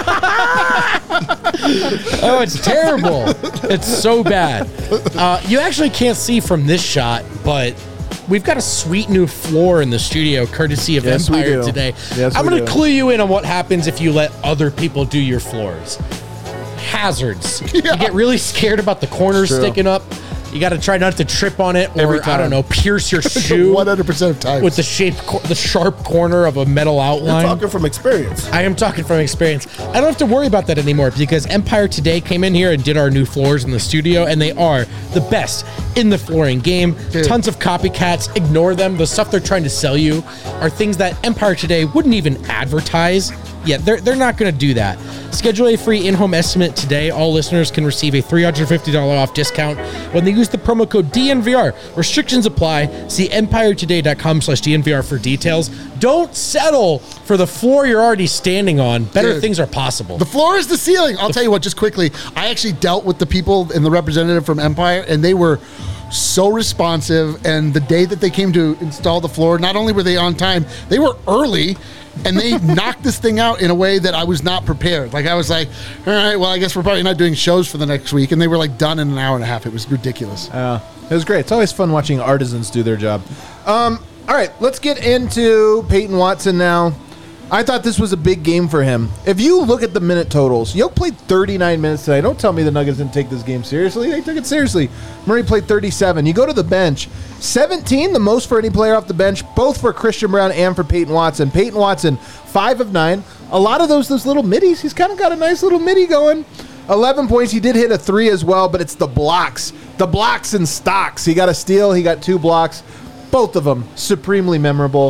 Oh, it's terrible. It's so bad. You actually can't see from this shot, but we've got a sweet new floor in the studio, courtesy of Empire today. Yes, I'm going to clue you in on what happens if you let other people do your floors. Hazards. You get really scared about the corners sticking up. You got to try not to trip on it Every or, I time. don't know, pierce your shoe 100% of times. with the sharp corner of a metal You're outline. talking from experience. I am talking from experience. I don't have to worry about that anymore because Empire Today came in here and did our new floors in the studio, and they are the best in the flooring game. Dude. Tons of copycats. Ignore them. The stuff they're trying to sell you are things that Empire Today wouldn't even advertise. Yeah, they're not going to do that. Schedule a free in-home estimate today. All listeners can receive a $350 off discount when they use the promo code DNVR. Restrictions apply. See EmpireToday.com/DNVR for details. Don't settle for the floor you're already standing on. Better Dude. things are possible. The floor is the ceiling. I'll tell you what, just quickly, I actually dealt with the people and the representative from Empire, and they were so responsive. And the day that they came to install the floor, not only were they on time, they were early, and they knocked this thing out in a way that I was not prepared. Like, I was like, all right, well, I guess we're probably not doing shows for the next week. And they were like done in an hour and a half. It was ridiculous. It was great. It's always fun watching artisans do their job. All right, let's get into Peyton Watson now. I thought this was a big game for him. If you look at the minute totals, Yoke played 39 minutes today. Don't tell me the Nuggets didn't take this game seriously. They took it seriously. Murray played 37. You go to the bench, 17, the most for any player off the bench, both for Christian Braun and for Peyton Watson. Peyton Watson, 5 of 9. A lot of those little middies. He's kind of got a nice little midi going. 11 points. He did hit a 3 as well, but it's the blocks. The blocks and stocks. He got a steal. He got 2 blocks. Both of them supremely memorable.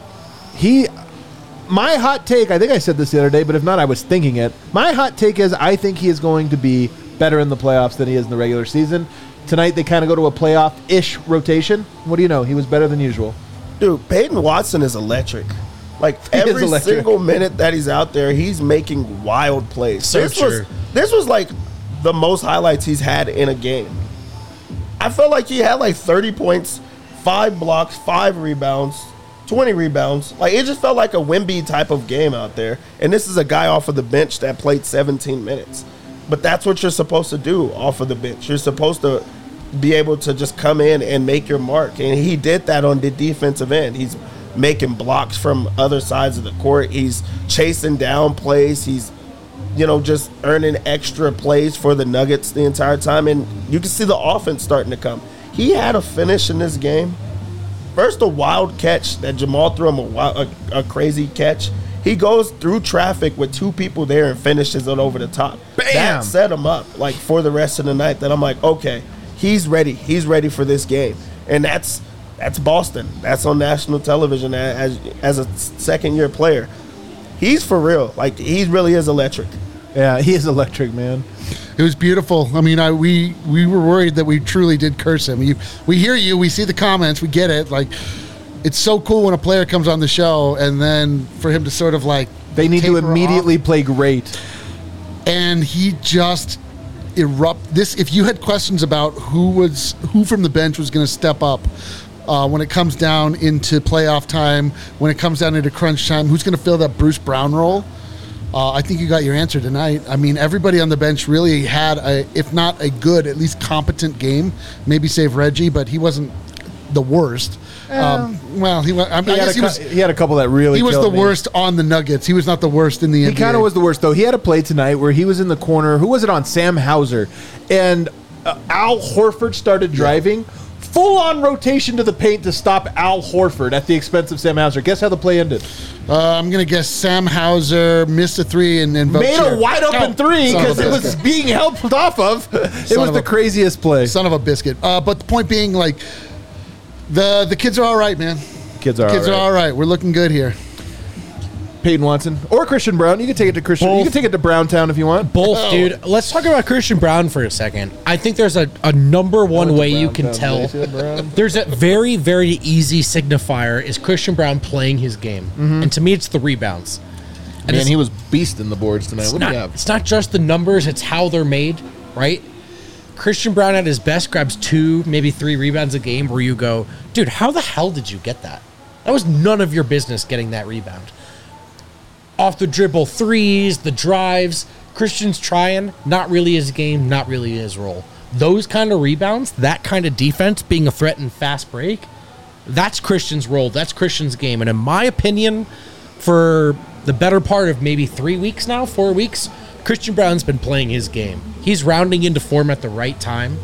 My hot take, I think I said this the other day, but if not, I was thinking it. My hot take is I think he is going to be better in the playoffs than he is in the regular season. Tonight, they kind of go to a playoff-ish rotation. What do you know? He was better than usual. Dude, Peyton Watson is electric. Like, He is every electric. single minute that he's out there, he's making wild plays. So true. This was like the most highlights he's had in a game. I felt like he had like 30 points, 5 blocks, 5 rebounds, 20 rebounds. Like, it just felt like a Wemby type of game out there. And this is a guy off of the bench that played 17 minutes. But that's what you're supposed to do off of the bench. You're supposed to be able to just come in and make your mark. And he did that on the defensive end. He's making blocks from other sides of the court. He's chasing down plays. He's, just earning extra plays for the Nuggets the entire time. And you can see the offense starting to come. He had a finish in this game. First, a wild catch that Jamal threw him a crazy catch. He goes through traffic with 2 people there and finishes it over the top. Bam! That set him up for the rest of the night. That I'm like, okay, he's ready. He's ready for this game, and that's Boston. That's on national television as a second-year player. He's for real. Like, he really is electric. Yeah, he is electric, man. It was beautiful. I mean, we were worried that we truly did curse him. We hear you. We see the comments. We get it. Like, it's so cool when a player comes on the show and then for him to sort of like They need to taper immediately off. play great. And he just erupt this. If you had questions about who from the bench was going to step up when it comes down into playoff time, when it comes down into crunch time, who's going to fill that Bruce Brown role? I think you got your answer tonight. I mean, everybody on the bench really had if not a good, at least competent game. Maybe save Reggie, but he wasn't the worst. He He had a couple that really he was killed the me. worst on the Nuggets. He was not the worst in the NBA. He kind of was the worst, though. He had a play tonight where he was in the corner. Who was it on? Sam Hauser. And Al Horford started driving. Full-on rotation to the paint to stop Al Horford at the expense of Sam Hauser. Guess how the play ended? I'm going to guess Sam Hauser missed a 3 and Made a wide-open 3 because it was being helped off of. It was the craziest play. Son of a biscuit. But the point being, like, the kids are all right, man. Kids are all right. We're looking good here. Peyton Watson or Christian Brown. You can take it to Christian. Both. You can take it to Browntown if you want. Both, dude. Let's talk about Christian Brown for a second. I think there's a number one way you can tell. There's a very, very easy signifier is Christian Brown playing his game. And to me, it's the rebounds. And Man, it's, he was beasting the boards tonight. it's What do not, you have? it's not just the numbers, it's how they're made, right? Christian Brown at his best grabs 2, maybe 3 rebounds a game where you go, dude, how the hell did you get that? That was none of your business getting that rebound. Off the dribble threes, the drives, Christian's trying, not really his game, not really his role. Those kind of rebounds, that kind of defense, being a threat in fast break, that's Christian's role, that's Christian's game. And in my opinion, for the better part of maybe 3 weeks now, 4 weeks, Christian Brown's been playing his game. He's rounding into form at the right time.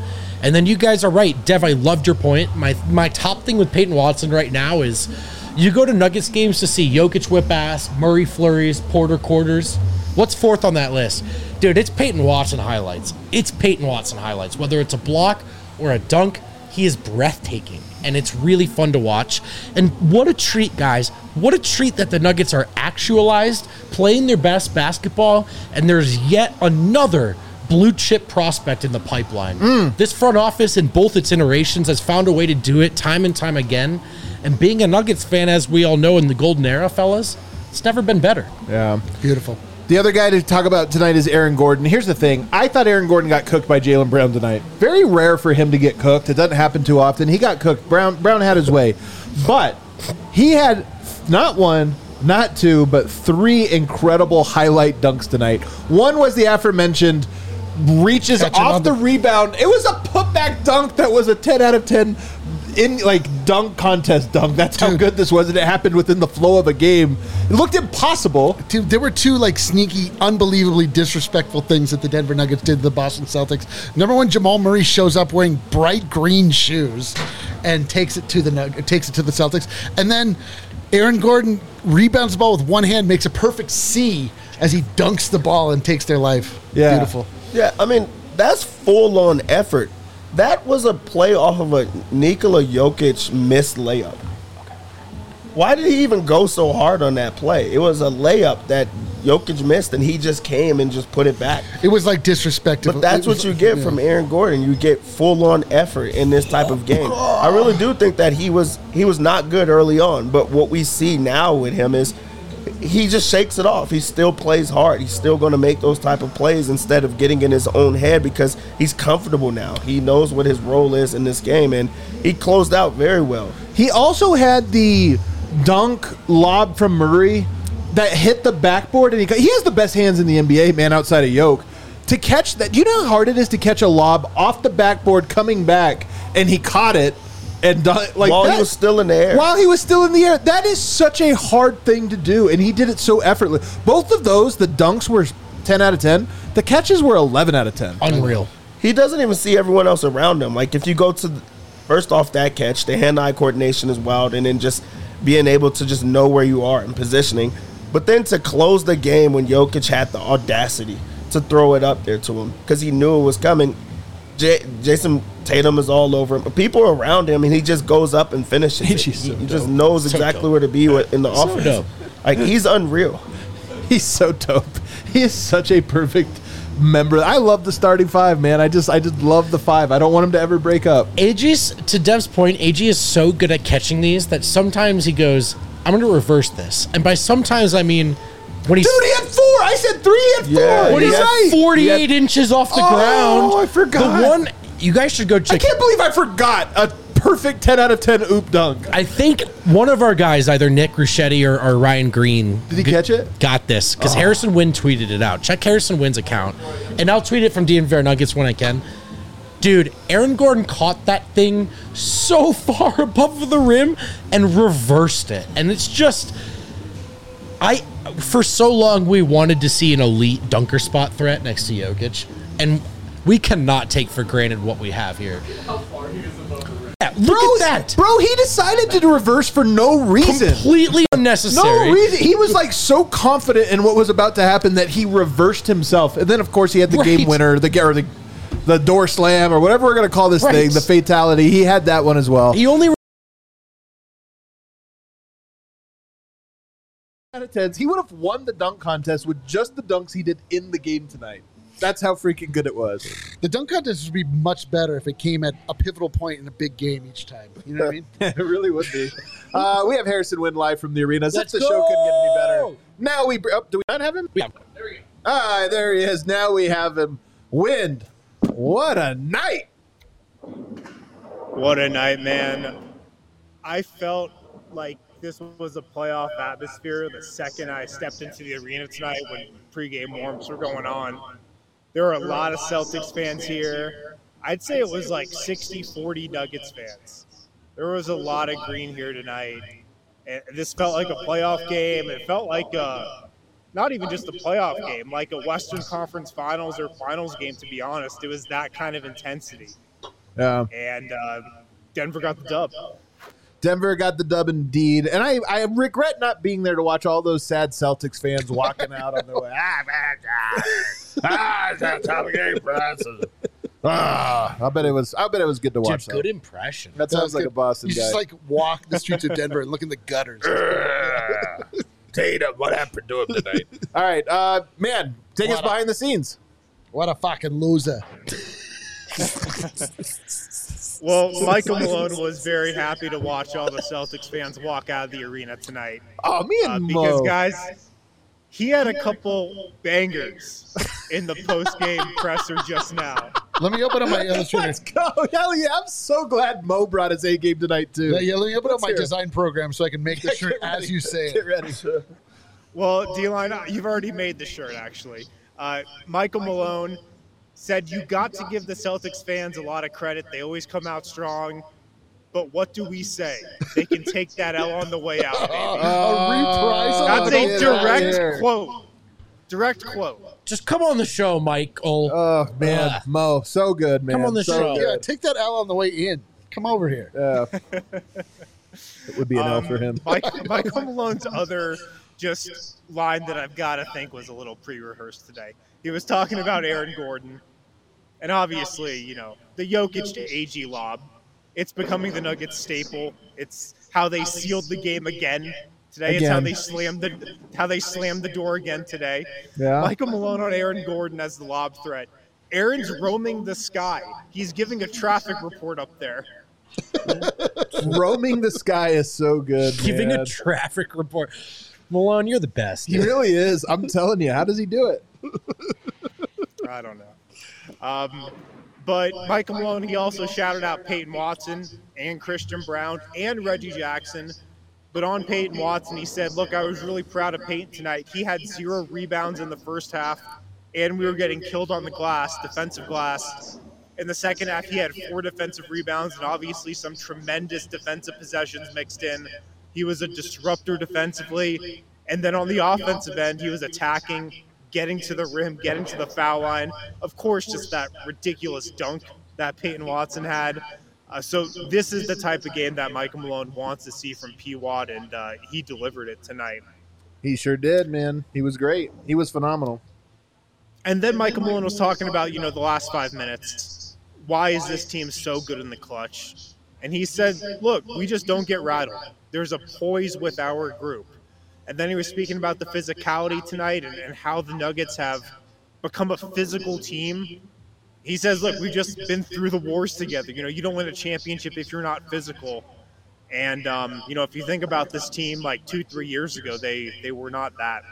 And then you guys are right. Dev, I loved your point. My top thing with Peyton Watson right now is you go to Nuggets games to see Jokic whip ass, Murray flurries, Porter quarters. What's fourth on that list? Dude, it's Peyton Watson highlights. It's Peyton Watson highlights. Whether it's a block or a dunk, he is breathtaking. And it's really fun to watch. And what a treat, guys. What a treat that the Nuggets are actualized, playing their best basketball, and there's yet another blue chip prospect in the pipeline. This front office in both its iterations has found a way to do it time and time again. And being a Nuggets fan, as we all know in the golden era, fellas, it's never been better. Yeah. Beautiful. The other guy to talk about tonight is Aaron Gordon. Here's the thing. I thought Aaron Gordon got cooked by Jaylen Brown tonight. Very rare for him to get cooked. It doesn't happen too often. He got cooked. Brown had his way. But he had not one, not two, but three incredible highlight dunks tonight. One was the aforementioned reaches Catching off on the the- rebound. It was a putback dunk that was a 10 out of 10 in like dunk contest dunk. That's how Dude. good this was, and it happened within the flow of a game. It looked impossible. Dude, there were two like sneaky, unbelievably disrespectful things that the Denver Nuggets did to the Boston Celtics. Number one, Jamal Murray shows up wearing bright green shoes and takes it to the Celtics, and then Aaron Gordon rebounds the ball with one hand, makes a perfect C as he dunks the ball and takes their life. Yeah. Beautiful. Yeah, I mean, that's full-on effort. That was a play off of a Nikola Jokic missed layup. Why did he even go so hard on that play? It was a layup that Jokic missed, and he just came and just put it back. It was like disrespectful. But that's It was- what you get yeah. from Aaron Gordon. You get full-on effort in this type of game. I really do think that he was not good early on, but what we see now with him is he just shakes it off. He still plays hard. He's still going to make those type of plays instead of getting in his own head because he's comfortable now. He knows what his role is in this game, and he closed out very well. He also had the dunk lob from Murray that hit the backboard, and he has the best hands in the NBA, man, outside of Yoke. To catch that, do you know how hard it is to catch a lob off the backboard coming back, and he caught it and done like While that, he was still in the air. While he was still in the air, that is such a hard thing to do, and he did it so effortlessly. Both of those, the dunks were 10 out of 10. The catches were 11 out of 10. Unreal. He doesn't even see everyone else around him. Like, if you go to, first off, that catch, the hand-eye coordination is wild, and then just being able to just know where you are and positioning. But then to close the game when Jokic had the audacity to throw it up there to him because he knew it was coming. Jason Tatum is all over him. People are around him, and he just goes up and finishes it. He just knows exactly where to be in the offense. dope. Like, he's unreal. He's so dope. He is such a perfect member. I love the starting five, man. I just love the five. I don't want him to ever break up. AG's, to Dev's point, AG is so good at catching these that sometimes he goes, I'm going to reverse this. And by sometimes, I mean when he's... Dude, he had four. I said three. He had four. Yeah, when What he's is at right? 48 inches off the ground. I forgot. The one... You guys should go I check... can't believe I forgot a perfect 10 out of 10 oop dunk. I think one of our guys, either Nick Ruschetti or Ryan Green... Did he catch it? Got this, because Harrison Wynn tweeted it out. Check Harrison Wynn's account, and I'll tweet it from DNVR Nuggets when I can. Dude, Aaron Gordon caught that thing so far above the rim and reversed it. And it's just... For so long, we wanted to see an elite dunker spot threat next to Jokic, and we cannot take for granted what we have here. Yeah, look at that. Bro, he decided to reverse for no reason. Completely unnecessary. No reason. He was like so confident in what was about to happen that he reversed himself. And then, of course, he had the Right. game winner, the door slam, or whatever we're going to call this Right. thing, the fatality. He had that one as well. He only... Out of 10s, he would have won the dunk contest with just the dunks he did in the game tonight. That's how freaking good it was. The dunk contest would be much better if it came at a pivotal point in a big game each time. You know what I mean? It really would be. We have Harrison Wynn live from the arena. As if Let's the show couldn't get any better. go! Now do we not have him? Yeah. There he is. Now we have him. Wind. What a night. What a night, man. I felt like this was a playoff atmosphere the second I stepped into the arena tonight when pregame warms were going on. There were a lot of Celtics fans here. I'd say it was like 60-40 Nuggets fans. There was a lot of green here tonight. And this felt like a playoff game. It felt like not even just a playoff game, like a Western Conference Finals or Finals game, to be honest. It was that kind of intensity. Yeah. And Denver got the dub. Denver got the dub indeed. And I regret not being there to watch all those sad Celtics fans walking out on their way. It's that time of game for us. I bet it was good to watch Dude, good that. impression. That sounds like a Boston You guy. just like walk the streets of Denver and look in the gutters. Tatum, what happened to him tonight? All right, man, take us behind the scenes. What a fucking loser. Well, Michael Malone was very happy to watch all the Celtics fans walk out of the arena tonight. Oh, me and Because, Mo. guys, he had a couple bangers in the post-game presser just now. Let me open up my illustrator. Let's go. Hell yeah. I'm so glad Mo brought his A game tonight, too. Yeah, let me open up my hear it. design program so I can make the shirt as you say Get it. ready. Well, D-Line, you've already made the shirt, actually. Michael Malone said you got to give the Celtics fans a lot of credit. They always come out strong. But what do we say? They can take that L on the way out, baby. A reprisal. That's get a out of here. direct quote. Direct quote. Just come on the show, Michael. Oh, man. Ugh. Mo, so good, man. Come on the so show. good. Yeah, take that L on the way in. Come over here. It would be an L for him. Michael Malone's other just line that I've got to think was a little pre-rehearsed today. He was talking about Aaron Gordon, and obviously, you know, the Jokic to AG lob. It's becoming the Nuggets staple. It's how they sealed the game again today. It's how Again. they slammed the door again today. Yeah. Michael Malone on Aaron Gordon as the lob threat. Aaron's roaming the sky. He's giving a traffic report up there. Roaming the sky is so good, Giving man. a traffic report. Malone, you're the best. He really is. I'm telling you. How does he do it? I don't know. But Michael Malone, he also shouted out Peyton Watson and Christian Brown and Reggie Jackson. But on Peyton Watson, he said, look, I was really proud of Peyton tonight. He had 0 rebounds in the first half, and we were getting killed on the glass, defensive glass. In the second half, he had 4 defensive rebounds and obviously some tremendous defensive possessions mixed in. He was a disruptor defensively. And then on the offensive end, he was attacking, getting to the rim, getting to the foul line. Of course, just that ridiculous dunk that Peyton Watson had. So this is the type of game that Michael Malone wants to see from P. Watt, and he delivered it tonight. He sure did, man. He was great. He was phenomenal. And then Michael Malone was talking about, you know, the last 5 minutes. Why is this team so good in the clutch? And he said, look, we just don't get rattled. There's a poise with our group. And then he was speaking about the physicality tonight and how the Nuggets have become a physical team. He says, look, we've just been through the wars together. You know, you don't win a championship if you're not physical. And, you know, if you think about this team like 2-3 years ago, they were not that.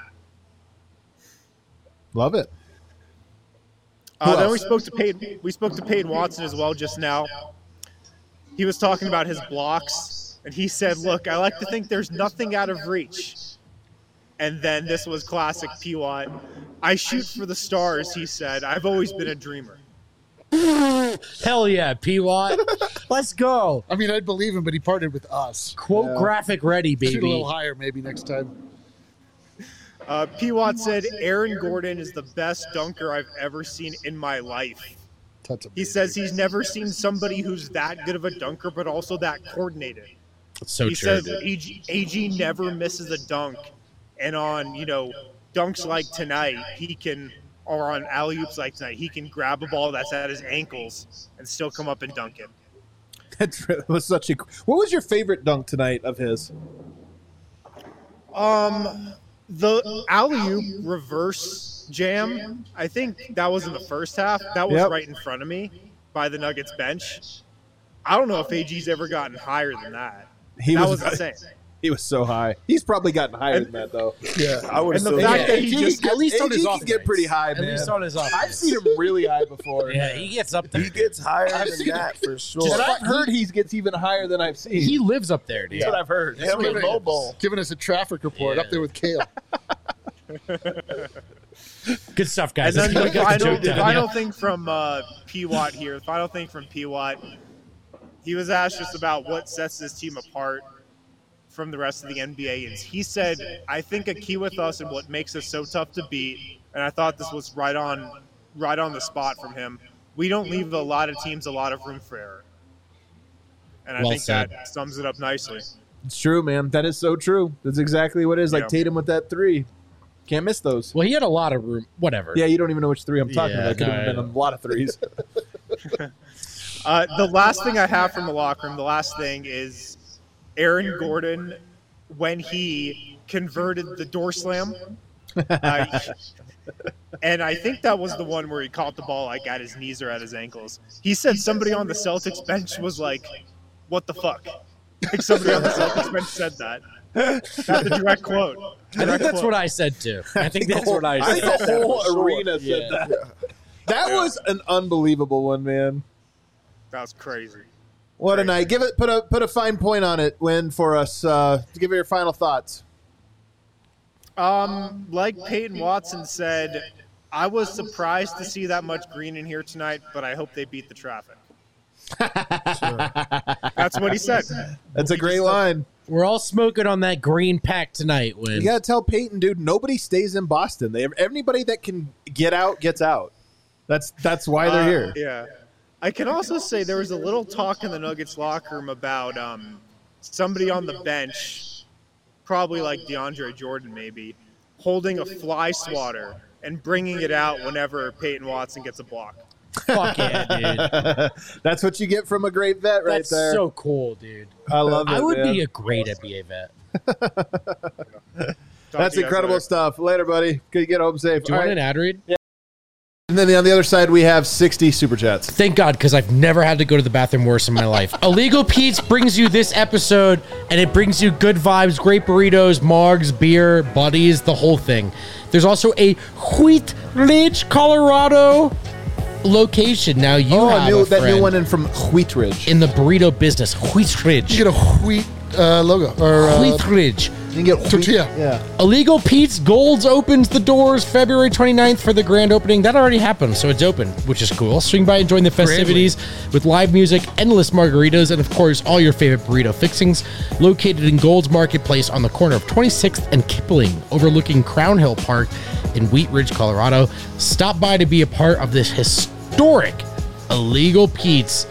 Love it. Then else? we spoke to Peyton Watson as well just now. He was talking about his blocks, and he said, look, I like to think there's nothing out of reach. And then this was classic P. Watt. I shoot for the stars, he said. I've always been a dreamer. Hell yeah, P-Watt. Let's go. I mean, I'd believe him, but he partnered with us. Quote graphic ready, Shoot a baby. little higher maybe next time. P. Watt said, Aaron Gordon is the best dunker I've ever seen in my life. That's He says he's never seen somebody who's that good of a dunker, but also that coordinated. That's so He true. says AG never misses a dunk. And on, you know, dunks like tonight, or on alley-oops like tonight, he can grab a ball that's at his ankles and still come up and dunk it. That was such a. What was your favorite dunk tonight of his? The alley-oop reverse jam, I think that was in the first half. That was Yep. right in front of me by the Nuggets bench. I don't know if AG's ever gotten higher than that. That was insane. He was so high. He's probably gotten higher than that, though. Yeah. I would And the assume. fact that he just at least on AG his can off get nights. pretty high, At man. least on his off I've nights. seen him really high before. Yeah, he gets up there. He gets higher than that for sure. And I've heard he gets even higher than I've seen. He lives up there, dude. That's what I've heard. Him and Bobo. Giving us a traffic report Yeah. up there with Kale. Good stuff, And guys. then Let's the get the joke final done. thing from P. Watt here. The final thing from P. Watt. He was asked just about what sets this team apart from the rest of the NBA. And he said, I think a key with us and what makes us so tough to beat, and I thought this was right on the spot from him. we don't leave a lot of teams a lot of room for error. And I Well think said. that sums it up nicely. It's true, man. That is so true. That's exactly what it is. Like Yeah. Tatum with that 3. Can't miss those. Well, he had a lot of room. Whatever. Yeah, you don't even know which 3 I'm talking Yeah, about. It could no, have I been a know. lot of 3s. The last thing I have from the locker room, the last thing is Aaron Gordon when he converted the door slam. And I think that was the one where he caught the ball like at his knees or at his ankles. He said somebody on the Celtics bench was like, "What the fuck?" Like somebody on the Celtics bench said that. That's a direct quote. I think that's what I said too. I think that's what I I think said. the whole arena said Yeah. that. That was an unbelievable one, man. That was crazy. What a night! Give it put a fine point on it. Win for us. Give it your final thoughts. Like Peyton Watson said, I was surprised to see that much green in here tonight, but I hope they beat the traffic. That's what he said. That's a great line. We're all smoking on that green pack tonight. You When gotta tell Peyton, dude. Nobody stays in Boston. Everybody that can get out gets out. That's why they're here. Yeah. I can also say there was a little talk in the Nuggets locker room about somebody on the bench, probably like DeAndre Jordan maybe, holding a fly swatter and bringing it out whenever Peyton Watson gets a block. fuck yeah, dude. That's what you get from a great vet, right That's there. so cool, dude. I love it. I would man. be a great NBA vet. Talk That's to you guys incredible later. stuff. Later, buddy. Good get home safe. Do you All want right. an ad read? And then on the other side, we have 60 super chats. Thank God, because I've never had to go to the bathroom worse in my life. Illegal Pete's brings you this episode, and it brings you good vibes, great burritos, margs, beer, buddies, the whole thing. There's also a Wheat Ridge, Colorado location. Now you have that new friend one in from Wheat Ridge. in the burrito business, Wheat Ridge. You get a wheat logo or Wheat Ridge. You can get wheat- tortilla. Yeah. Illegal Pete's Golds opens the doors February 29th for the grand opening. That already happened, so it's open, which is cool. Swing by and join the festivities with live music, endless margaritas, and of course, all your favorite burrito fixings. Located in Gold's Marketplace on the corner of 26th and Kipling, overlooking Crown Hill Park in Wheat Ridge, Colorado. Stop by to be a part of this historic Illegal Pete's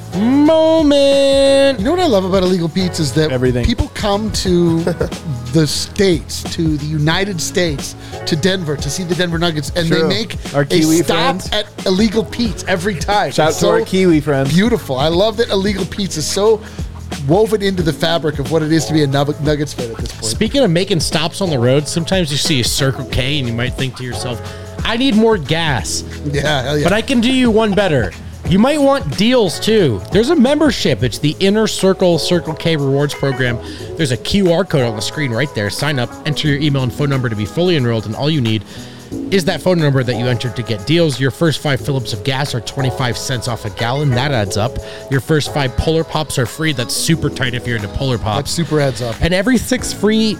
moment. You know what I love about Illegal Pete's is that Everything. people come to the States, to the United States, to Denver to see the Denver Nuggets, and True. they make Our a Kiwi stop friends. at Illegal Pete's every time. Shout out It's to our Kiwi friends. Beautiful. I love that Illegal Pete's is so woven into the fabric of what it is to be a Nuggets fan at this point. Speaking of making stops on the road, sometimes you see a Circle K and you might think to yourself, I need more gas. Yeah, hell yeah. But I can do you one better. You might want deals too. There's a membership. It's the Inner Circle Circle K Rewards Program. There's a QR code on the screen right there. Sign up, enter your email and phone number to be fully enrolled, and all you need is that phone number that you entered to get deals. Your first 5 Phillips of gas are 25 cents off a gallon. That adds up. Your first 5 Polar Pops are free. That's super tight if you're into Polar that Pops. super adds up. And every sixth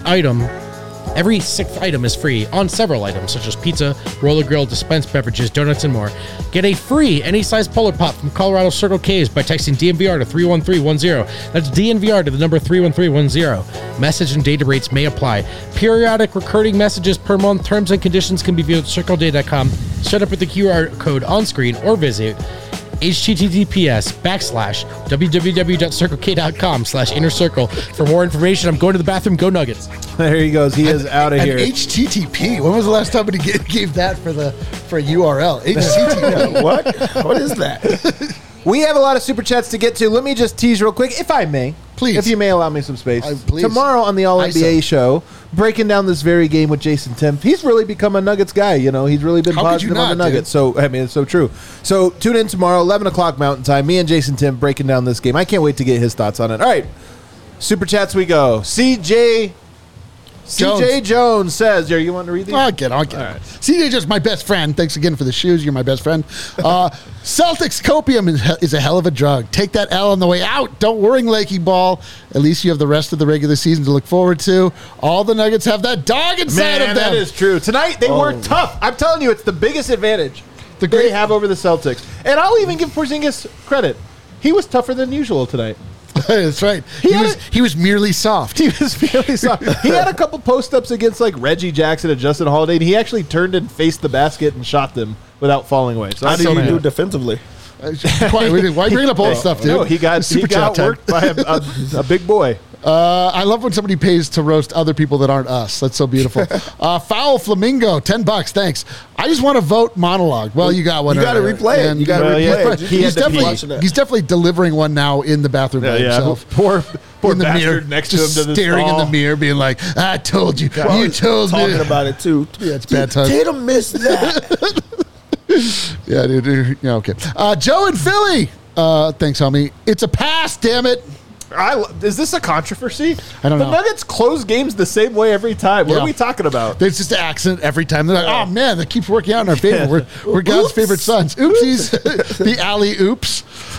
item is free on several items, such as pizza, roller grill, dispensed beverages, donuts, and more. Get a free any size Polar Pop from Colorado Circle K's by texting DNVR to 31310. That's DNVR to the number 31310. Message and data rates may apply. Periodic recurring messages per month. Terms and conditions can be viewed at circleday.com. Set up with the QR code on screen or visit https://www.circlek.com/innercircle. For more information, I'm going to the bathroom. Go Nuggets. There he goes. He is out of And here. HTTP. When was the last time he gave that for a URL? HTTP. What? What is that? We have a lot of super chats to get to. Let me just tease real quick, if I may. Please. If you may allow me some space. Please. Tomorrow on the All NBA ISO. show, breaking down this very game with Jason Tim. He's really become a Nuggets guy. You know, he's really been How could you positive on the not, Nuggets. So, I mean, it's so true. So, tune in tomorrow, 11 o'clock Mountain Time. Me and Jason Tim breaking down this game. I can't wait to get his thoughts on it. All right. Super chats we go. CJ Jones says, you want to read these? I'll get it. CJ just my best friend. Thanks again for the shoes. You're my best friend. Celtics copium is a hell of a drug. Take that L on the way out. Don't worry, Lakey Ball. At least you have the rest of the regular season to look forward to. All the Nuggets have that dog inside Man, of them. that is true. Tonight, they were tough. I'm telling you, it's the biggest advantage they have over the Celtics. And I'll even give Porzingis credit. He was tougher than usual tonight. That's right. He was merely soft. He was really soft. He had a couple post-ups against like Reggie Jackson and Justin Holiday, and he actually turned and faced the basket and shot them without falling away. So How I'm do so you mad. do defensively? Why are you bringing up old stuff, dude? No, he got Super chat time. worked by a big boy. I love when somebody pays to roast other people that aren't us. That's so beautiful. Foul Flamingo, $10. Thanks. I just want to vote monologue. Well, you got one. You got to earlier. replay it. And You got to replay it. He's definitely delivering one now in the bathroom by himself. Poor in the mirror, next to him, just to the staring in stall. the mirror, being like, "I told you, you told me." Talking about it too. Yeah, it's bad time. Tatum missed that. Yeah, dude. Yeah, okay. Joe in Philly. Thanks, homie. It's a pass. Damn it. Is this a controversy? I don't know. The Nuggets close games the same way every time. What Yeah. are we talking about? There's just an accident every time. They're like, "Oh man, that keeps working out in our favor. We're God's favorite sons." Oopsies. The alley oops.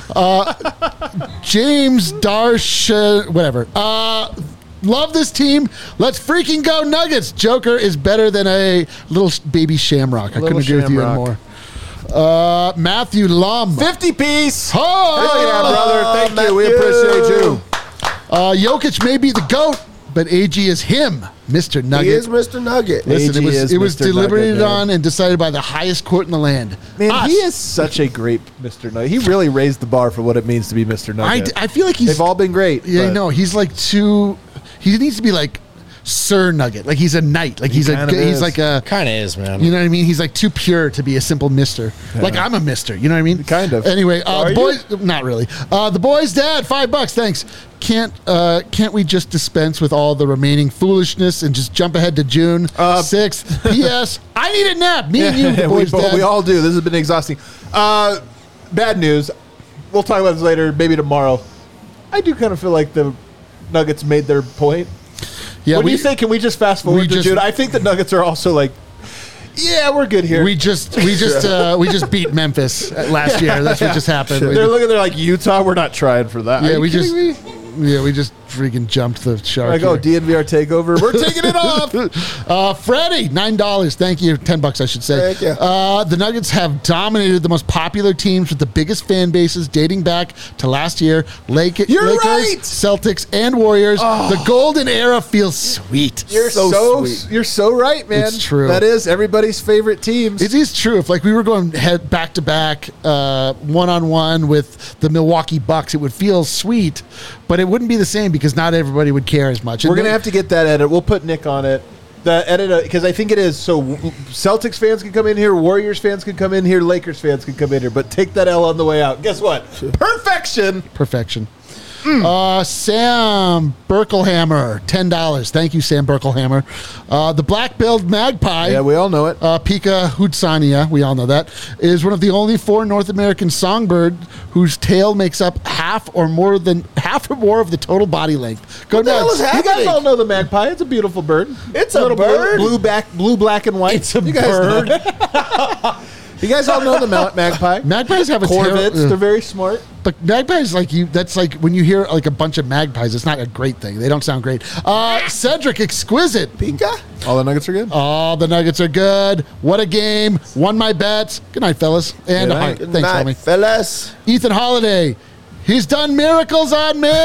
James Darsh, whatever. Love this team. Let's freaking go Nuggets. Joker is better than a little baby Shamrock. I couldn't agree with you Shamrock. anymore. Matthew Lum. 50 piece. Oh, Hell yeah, brother. Thank you. We appreciate you. Jokic may be the GOAT, but AG is him, Mr. Nugget. He is Mr. Nugget. Listen, AG is it was Mr. deliberated Nugget, man. on and decided by the highest court in the land. Man, Us. he is such a great Mr. Nugget. He really raised the bar for what it means to be Mr. Nugget. I feel like he's. They've all been great. Yeah, I but- know. He's like too. He needs to be like Sir Nugget. Like he's a knight. Like he's kind of he's is. like a. Kind of is, man. You know what I mean? He's like too pure to be a simple mister. Like I'm a mister. You know what I mean? Kind of. Anyway, Are the you? boys. Not really. The boys' dad, $5. Thanks. Can't we just dispense with all the remaining foolishness and just jump ahead to June 6th? P.S. I need a nap. Me and you, the boys' dad. we all do. This has been exhausting. Bad news. We'll talk about this later, maybe tomorrow. I do kind of feel like the Nuggets made their point. Yeah, What do you say? Can we just fast forward to just- June? I think the Nuggets are also like, yeah, we're good here. We just beat Memphis last year. That's what just happened. They're looking. They're like Utah. We're not trying for that. Are Yeah, you we just kidding me? we just freaking jumped the shark. Like, oh, here. DNVR takeover. We're taking it off. Freddie, $9. Thank you. $10, I should say. Thank you. The Nuggets have dominated the most popular teams with the biggest fan bases dating back to last year. Lakers, right! Celtics, and Warriors. The golden era feels sweet. You're sweet. you're so right, man. It's true. That is everybody's favorite teams. It is true. If like we were going head back to back, one-on-one with the Milwaukee Bucks, it would feel sweet, but it wouldn't be the same because not everybody would care as much. We're gonna have to get that edit. We'll put Nick on it. The edit because I think it is so. Celtics fans can come in here, Warriors fans can come in here, Lakers fans can come in here. But take that L on the way out. Guess what? Perfection. Perfection. Sam Berkelhammer, $10. Thank you, Sam Berkelhammer. The black-billed magpie, Yeah, we all know it. Pica hudsania, we all know that, is one of the only 4 North American songbirds whose tail makes up half or more of the total body length. Go the hell nuts. is You guys happening? all know the magpie. It's a beautiful bird. It's a Little bird? blue, black, and white. It's a You guys bird. know. You guys all know the magpie. Magpies have a Corvids. tail. They're very smart. But magpies, like you, that's like when you hear like a bunch of magpies, it's not a great thing. They don't sound great. Cedric, exquisite. Pika? All the Nuggets are good. Oh, the Nuggets are good. What a game. Won my bets. Good night, fellas. And Good a night. heart. Good Thanks, night, homie. fellas. Ethan Holiday. He's done miracles on me.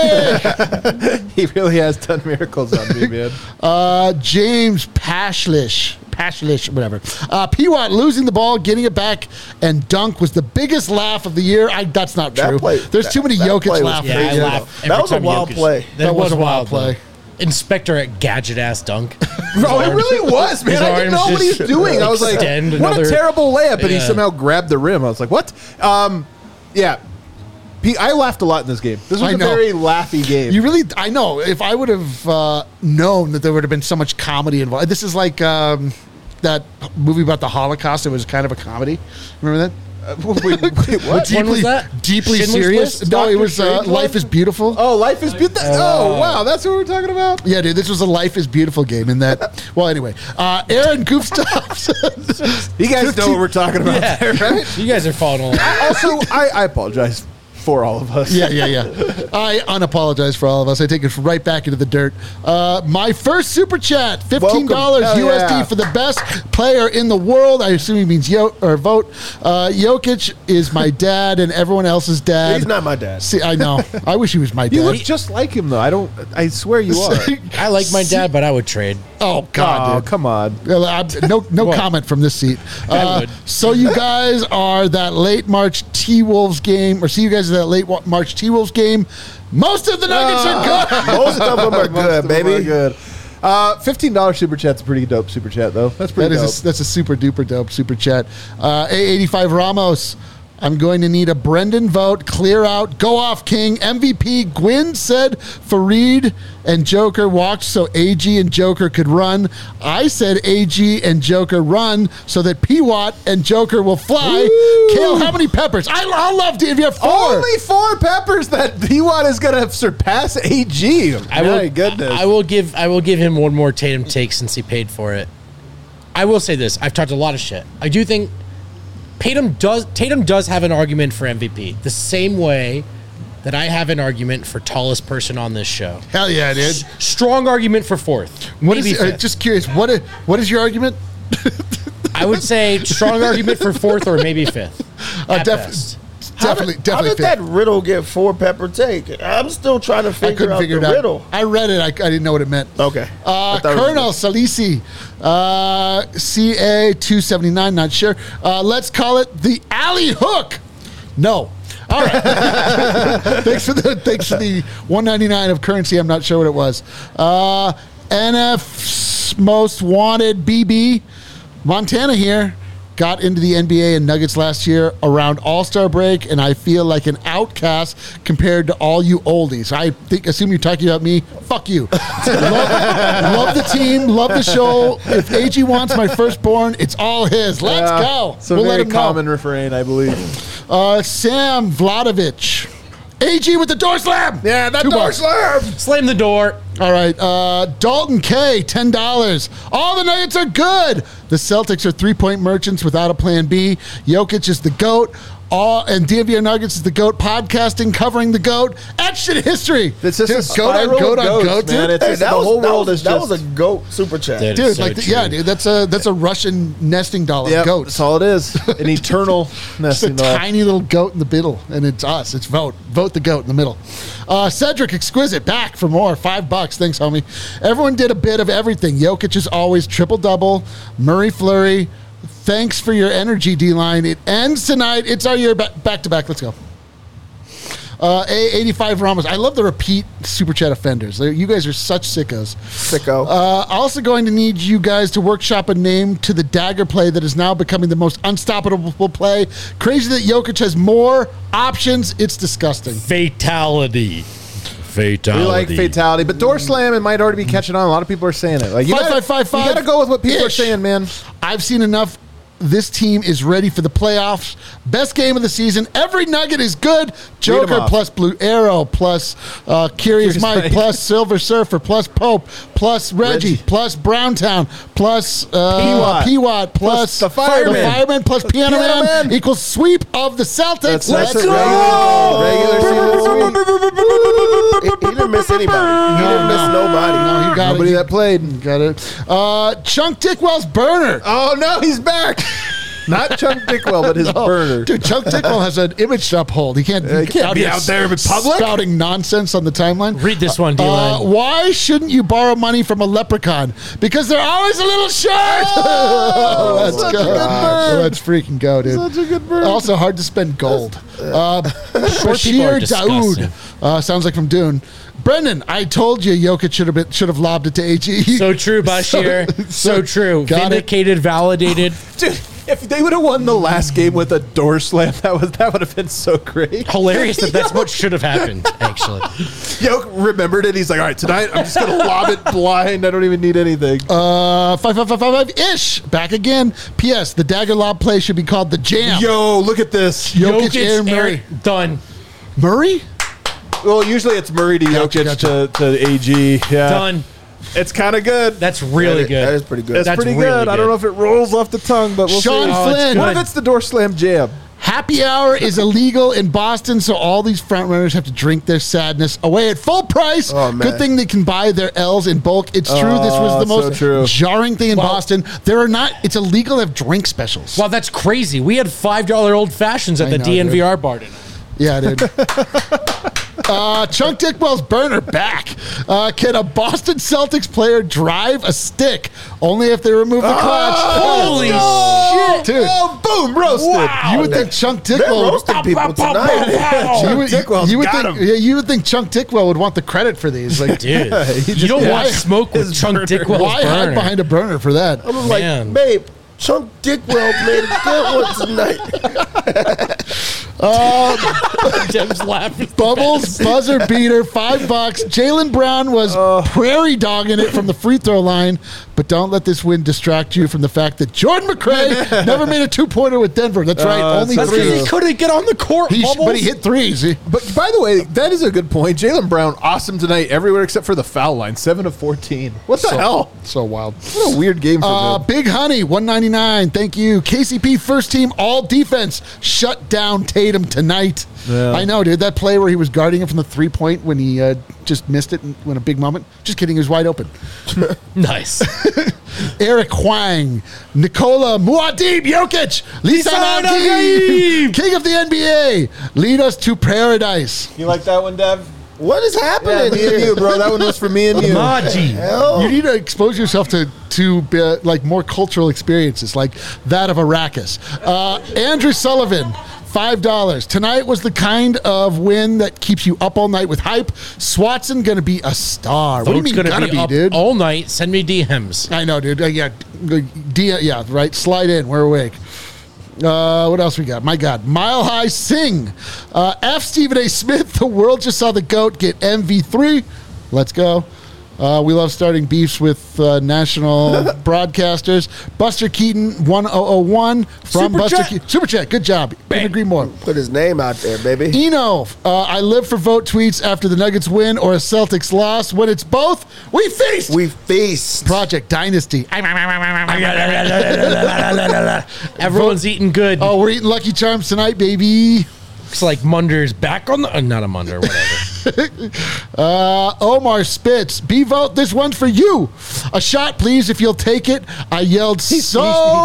He really has done miracles on me, man. James Pashlish, whatever. P-Watt losing the ball, getting it back, and dunk was the biggest laugh of the year. That's not That true. play- There's too many that Jokic play was laughs. Yeah, I Crazy. laugh. That every was a time wild Jokic- play. That was a wild wild play. play. Inspector at gadget ass dunk. Bro, it really was, man. His I didn't know arms what he's just doing. I was like, extend what a another- terrible layup. And he Yeah. somehow grabbed the rim. I was like, what? Yeah. I laughed a lot in this game. This was I a know. very laughy game. You really, I know. If I would have known that there would have been so much comedy involved. This is like that movie about the Holocaust. It was kind of a comedy. Remember that? wait, what? When was that? Deeply Schindler's serious. List? No, it Dr. was Strangelove? Life is Beautiful. Oh, Life is Beautiful. Oh, wow. That's what we're talking about? Yeah, dude, this was a Life is Beautiful game in that. Well, anyway, Aaron Goofstops. You guys know what we're talking about Yeah. there, right? You guys are falling along. Also, I apologize for all of us. Yeah. I unapologize for all of us. I take it right back into the dirt. My first super chat, $15 Welcome. Hell USD yeah. for the best player in the world. I assume he means vote. Jokic is my dad and everyone else's dad. He's not my dad. See, I know. I wish he was my You dad. look just like him, though. I swear you are. I like my dad, but I would trade. Oh God, Oh, dude. come on. No comment from this seat. I would. So you guys are that late March T-Wolves game, or see you guys at that late March T-Wolves game. Most of the Nuggets are good. Most of them are good, baby. Good. $15 super chat's a pretty dope super chat, though. That's pretty dope. That's a super duper dope super chat. A85 Ramos. I'm going to need a Brendan vote. Clear out. Go off, King. MVP. Gwyn said Fareed and Joker walked so AG and Joker could run. I said AG and Joker run so that P-Watt and Joker will fly. Woo! Kale, how many peppers? I'll love to if you have 4. Only 4 peppers that P-Watt is going to surpass AG. My goodness. I will give him one more Tatum take since he paid for it. I will say this. I've talked a lot of shit. I do think Tatum does have an argument for MVP. The same way that I have an argument for tallest person on this show. Hell yeah, dude. Strong argument for fourth. What Maybe is fifth. just curious, what is your argument? I would say strong argument for fourth or maybe fifth. at best. Definitely How did fit. that riddle get 4 pepper take? I'm still trying to I figure couldn't out figure the it out. riddle. I read it. I didn't know what it meant. Okay. I thought it was- Colonel Salisi, CA279, not sure. Let's call it the alley hook. No. All right. thanks for the 199 of currency. I'm not sure what it was. NF's most wanted BB, Montana here. Got into the NBA and Nuggets last year around All-Star break, and I feel like an outcast compared to all you oldies. Assume you're talking about me. Fuck you. love the team, love the show. If AG wants my firstborn, it's all his. Let's go. It's a We'll very let him common refrain, I believe. know. Sam Vladovich. AG with the door slam. Yeah, that 2 door bucks. slam. Slam the door. All right, Dalton K, $10. All the Nuggets are good. The Celtics are 3-point merchants without a plan B. Jokic is the GOAT. And DNVR Nuggets is the GOAT. Podcasting covering the GOAT. Etched in history. It's just Dude, a spiral GOAT of on goats, GOAT, man. dude. It's just, the whole world is that just... was a GOAT super chat. Dude. Dude, so like, true. yeah, dude, that's a Russian nesting doll of Yep, goats. that's all it is. An eternal Just a nesting doll. tiny little goat in the middle, and it's us. It's vote the goat in the middle. Cedric Exquisite back for more. $5. Thanks, homie. Everyone did a bit of everything. Jokic is always triple double. Murray Fleury. Thanks for your energy, D-line. It ends tonight. It's our year back to back. Let's go. A85 Ramos. I love the repeat super chat offenders. You guys are such sickos. Sicko. Also going to need you guys to workshop a name to the dagger play that is now becoming the most unstoppable play. Crazy that Jokic has more options. It's disgusting. Fatality. We like fatality, but door slam, it might already be catching on. A lot of people are saying it. Like, you 5555 gotta go with what people are ish. saying, man. I've seen enough. This team is ready for the playoffs. Best game of the season. Every Nugget is good. Joker off. plus Blue Arrow plus Curious Mike Mike. plus Silver Surfer plus Pope plus Reggie plus Browntown plus P-Watt plus the Fireman. plus Piano Piano Man Man. equals sweep of the Celtics. Let's Let's go! go! Regular season sweep. He didn't miss anybody. He didn't miss nobody. No, he got Nobody it. that played. Got it. Chunk Dickwell's burner. Oh, no, he's back. Not Chunk Dickwell, but his burner. Dude, Chuck Dickwell has an image to uphold. He can't, he can't be out there in public. spouting nonsense on the timeline. Read this one, D-line. Why shouldn't you borrow money from a leprechaun? Because they're always a little short. Let's such go. a good bird. Let's freaking go, dude. Such a good bird. Also hard to spend gold. people are Bashir disgusting. Daoud. Sounds like from Dune. Brendan, I told you Jokic should have lobbed it to AG. So true, Bashir. So true. Got it. Vindicated, validated. Dude, if they would have won the last game with a door slam, that would have been so great. Hilarious that's what should have happened, actually. Yoke remembered it. He's like, all right, tonight I'm just going to lob it blind. I don't even need anything. 5555-ish. Back again. P.S. The dagger lob play should be called the jam. Yo, look at this. Jokic, Aaron Murray. Done. Murray? Well, usually it's Murray to Gotcha, Jokic to AG. Yeah. Done. It's kind of good. That's really good. That is pretty good. It's That's pretty really good. I don't good. know if it rolls off the tongue, but we'll Sean see. Oh, it's Flynn. What good. if it's the door slam jam? Happy hour is illegal in Boston, so all these front runners have to drink their sadness away at full price. Oh, man. Good thing they can buy their L's in bulk. It's true. This was the so most true. jarring thing in Boston. It's illegal to have drink specials. Wow, that's crazy. We had $5 old fashions at I the know, DNVR bar tonight. Yeah, dude. Chunk Dickwell's burner back. Can a Boston Celtics player drive a stick? Only if they remove the clutch. Holy shit. Dude. Oh, boom, roasted. You would think Chunk They're Dickwell. roasting people tonight. You would think Chunk Dickwell would want the credit for these. Like, Dude, you don't want smoke with Chunk Dickwell's why hide burner. behind a burner for that? I was like, Man. babe, Chunk Dickwell made a good one tonight. Dev's laughing. Bubbles, buzzer beater, $5. Jaylen Brown was prairie dogging it from the free throw line, but don't let this win distract you from the fact that Jordan McRae never made a 2-pointer with Denver. That's right, only That's because he three. couldn't get on the court, Bubbles. But he hit threes. But by the way, that is a good point. Jaylen Brown, awesome tonight everywhere except for the foul line. 7 of 14. What the hell? So wild. What a weird game for them. Big Honey, $1.99. Thank you. KCP first team all defense. Shut down Tatum tonight. Yeah. I know, dude. That play where he was guarding him from the 3-point when he just missed it in a big moment. Just kidding. He was wide open. Nice. Eric Huang, Nikola Muad'Dib Jokic, Lisan Agim, king of the NBA. Lead us to paradise. You like that one, Dev? What is happening Me here? and you, bro. That one was for me and you. Maji. Hell? You need to expose yourself to like more cultural experiences, like that of Arrakis. Andrew Sullivan, $5. Tonight was the kind of win that keeps you up all night with hype. Swatson gonna be a star. What do you mean gonna be up dude? all night. Send me DMs. I know, dude. Yeah, right. Slide in. We're awake. What else we got? My God. Mile High Sing. F. Stephen A. Smith. The world just saw the GOAT get MV3. Let's go. We love starting beefs with national broadcasters. Buster Keaton, 1001 from Super Buster chat. Keaton. Super chat. Good job. Couldn't agree more. Put his name out there, baby. Eno, I live for vote tweets after the Nuggets win or a Celtics loss. When it's both, we feast. We feast. Project Dynasty. Everyone's eating good. Oh, we're eating Lucky Charms tonight, baby. Looks like Munder's back on the... not a Munder, whatever. Omar Spitz, B-Vote, this one's for you. A shot, please, if you'll take it. I yelled so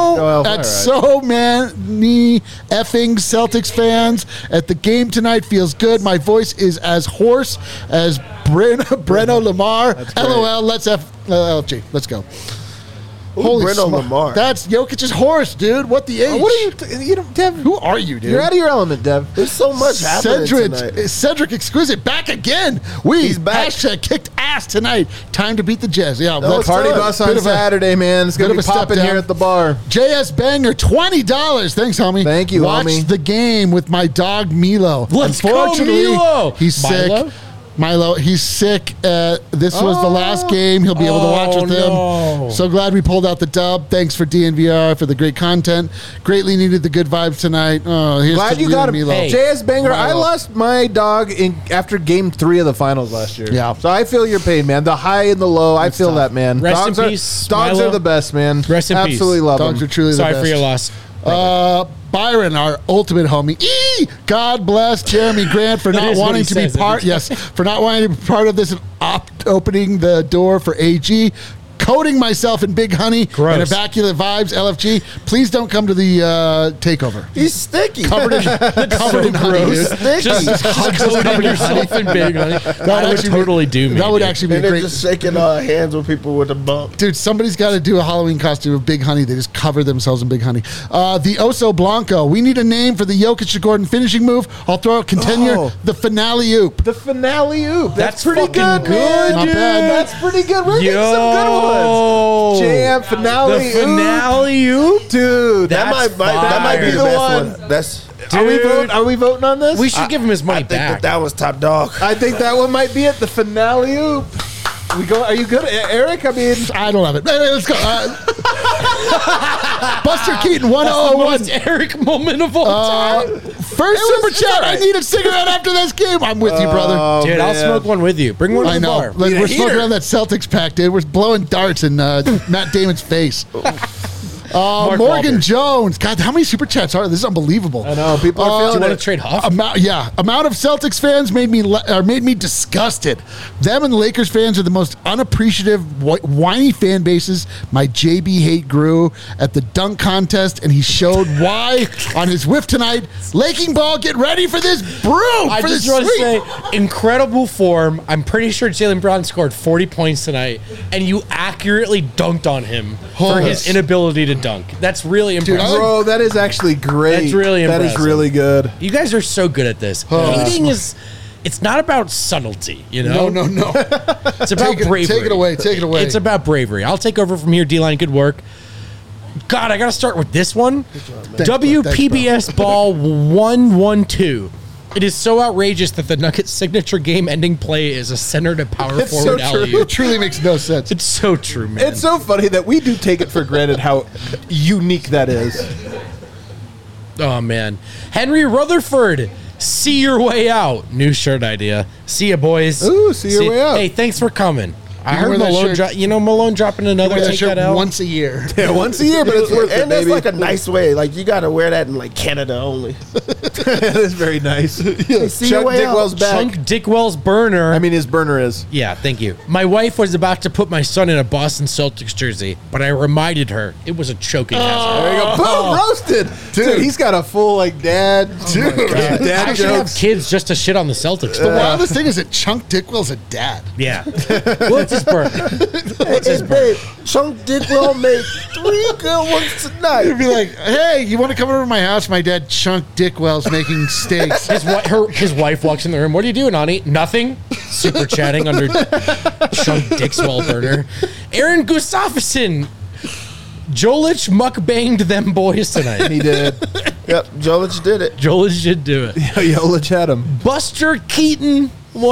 many effing Celtics fans at the game tonight. Feels good. My voice is as hoarse as Breno Lamar. LOL, let's LG. Let's go. Holy Breno smoke. Lamar. That's Jokic's horse, dude. What the H? What are you Dev? Who are you, dude? You're out of your element, Dev. There's so much happening tonight. Cedric Exquisite back again. He's back. Hashtag kicked ass tonight. Time to beat the Jazz. Yeah, No, let's it's Party time. bus on Bit of a- Saturday, man. It's going to bit be of a step popping down. here at the bar. JS Banger, $20. Thanks, homie. Thank you, Watched homie. the game with my dog Milo. Let's go, Unfortunately, Milo. he's Milo? sick. Milo, he's sick. This was the last game he'll be able to watch with him. no. So glad we pulled out the dub. Thanks for DNVR for the great content. Greatly needed the good vibes tonight. Oh, here's Glad to you got him. Milo. Hey. JS Banger, I Milo. lost my dog after game 3 of the finals last year. Yeah. So I feel your pain, man. The high and the low, I feel tough. that, man. Rest dogs in peace, Dogs Milo. are the best, man. Rest in peace. Absolutely love Dogs them. are truly Sorry the best. for your loss. Byron, our ultimate homie. God bless Jeremy Grant for That not is what wanting he to be says every part. time. Yes, for not wanting to be part of this and opening the door for AG. Coating myself in Big Honey Gross. and Immaculate Vibes. LFG, please don't come to the takeover. He's sticky. Covered in honey, He's dude. sticky. Just coating yourself in big honey. That would actually be- totally do me. That would dude. actually be and a they're great. just shaking hands with people with a bump. Dude, somebody's got to do a Halloween costume of Big Honey. They just cover themselves in Big Honey. The Oso Blanco. We need a name for the Jokic to Gordon finishing move. I'll throw out contender. Oh. The finale oop. The finale oop. That's pretty fucking good, good, man. Not dude. bad. That's pretty good. We're getting some good ones. Jam finale. The finale oop. Dude, That That's might be the fire. best one. That's. Are we voting on this? We should give him his I money think back. that was top dog. I think that one might be it. The finale oop. We go. Are you good, Eric? I mean, I don't have it. Hey, let's go. Buster Keaton, That's the 101. most Eric moment of all time. First super chat. I need a cigarette after this game. I'm with you, brother. Dude, I'll man. smoke one with you. Bring one to I the know. bar. Like, Need a we're smoking heater. on that Celtics pack, dude. We're blowing darts in Matt Damon's face. Morgan Wahlberg. Jones. God, how many super chats are there? This is unbelievable. I know people are Do you feeling want it. to trade Huff? Amount of Celtics fans made me disgusted. Them and the Lakers fans are the most unappreciative, whiny fan bases. My JB hate grew at the dunk contest, and he showed why on his whiff tonight. Laking ball, get ready for this brew. I for just this want to sweet- say, incredible form. I'm pretty sure Jaylen Brown scored 40 points tonight, and you accurately dunked on him for his inability to dunk. That's really impressive. Bro, that is actually great. That's really That is impressive. really good. You guys are so good at this. Hating it's not about subtlety, you know? No. It's about bravery. Take it away. Take it away. It's about bravery. I'll take over from here, D-Line. Good work. God, I got to start with this one. WPBS ball 112. It is so outrageous that the Nuggets' signature game-ending play is a center to power It's so forward true. alley. It truly makes no sense. It's so true, man. It's so funny that we do take it for granted how unique that is. Oh, man. Henry Rutherford, see your way out. New shirt idea. See ya, boys. Ooh, see your way out. Hey, thanks for coming. I You heard wear that Malone shirt- Malone dropping another Wear that Take shirt That Out. once a year. Yeah, once a year, but it's worth it, And that's baby. like a nice way. Like you got to wear that in like Canada only. That is very nice. See your Chuck way out. Dickwell's back. Chunk Dickwell's burner. I mean, his burner is. Yeah, thank you. My wife was about to put my son in a Boston Celtics jersey, but I reminded her it was a choking hazard. There you go. Boom, roasted. Dude, he's got a full, like, dad. Dude. I Dad should have jokes. kids just to shit on the Celtics. The wildest thing is that Chunk Dickwell's a dad. Yeah. What's his burner? Hey, babe, Chunk Dickwell made 3 good ones tonight. You'd be like, hey, you want to come over to my house? My dad, Chunk Dickwell's making steaks. His wife walks in the room. What are you doing, honey? Nothing. Super chatting under Chunk Dixwell burner. Aaron Gustafsson. Jolich mukbanged them boys tonight. He did. Yep, Jolich did it. Jolich should do it. Jolich had him. Buster Keaton,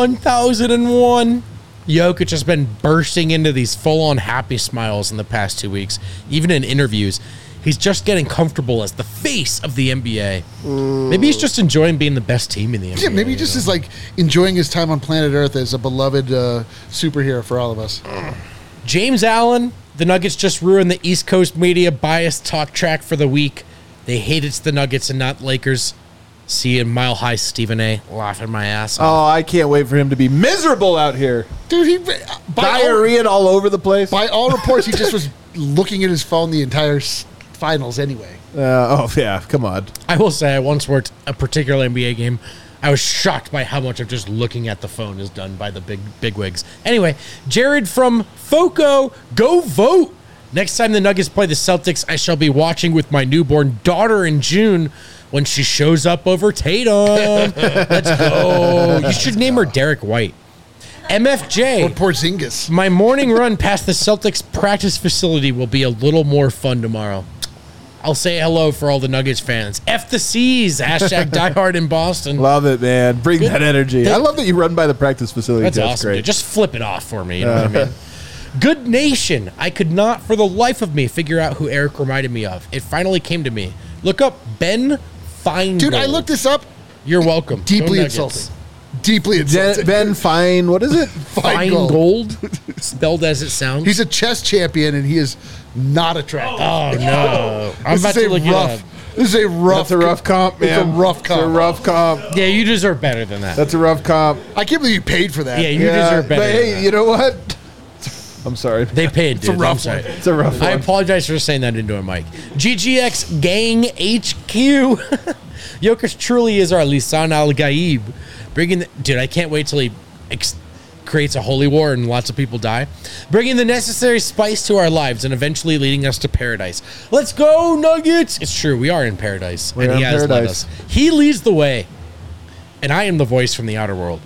1001. Jokic has been bursting into these full-on happy smiles in the past 2 weeks. Even in interviews, he's just getting comfortable as the face of the NBA. Maybe he's just enjoying being the best team in the NBA. Yeah, maybe he just is like enjoying his time on planet Earth as a beloved superhero for all of us. James Allen, the Nuggets just ruined the East Coast media bias talk track for the week. They hate it's the Nuggets and not Lakers. See you, Mile High Stephen A. laughing my ass off. Oh, I can't wait for him to be miserable out here. Dude, Diarrhea all over the place. by all reports, he just was looking at his phone the entire finals anyway. Oh, yeah. Come on. I will say I once worked a particular NBA game. I was shocked by how much of just looking at the phone is done by the big wigs. Anyway, Jared from Foco, go vote. Next time the Nuggets play the Celtics, I shall be watching with my newborn daughter in June when she shows up over Tatum. Let's go. You should name her Derek White. MFJ. Or Porzingis. My morning run past the Celtics practice facility will be a little more fun tomorrow. I'll say hello for all the Nuggets fans. F the C's. Hashtag diehard in Boston. Love it, man. Bring that energy. I love that you run by the practice facility. That's too. awesome. Great. Dude. Just flip it off for me. You know what I mean? Good Nation. I could not for the life of me figure out who Eric reminded me of. It finally came to me. Look up Ben Feingold. Dude, I looked this up. You're welcome. Deeply Go Nuggets. insulting. Deeply insulting. Ben Fine. What is it? Feingold. Spelled as it sounds. He's a chess champion, and he is not attractive. Oh, no. I'm about This is to a look it up. rough. This is a rough. That's a rough comp, man. It's a rough It's a comp. rough comp. Yeah, you deserve better than that. That's a rough comp. I can't believe you paid for that. Yeah, you deserve better But than hey, that. you know what? I'm sorry. They paid, dude. a rough I'm sorry. one. It's a rough I one. apologize for saying that into a mic. GGX Gang HQ. Jokic truly is our Lisan Al Gaib. Dude, I can't wait till he creates a holy war and lots of people die. Bringing the necessary spice to our lives and eventually leading us to paradise. Let's go, Nuggets! It's true, we are in paradise. We are he in has led paradise. us. He leads the way. And I am the voice from the outer world.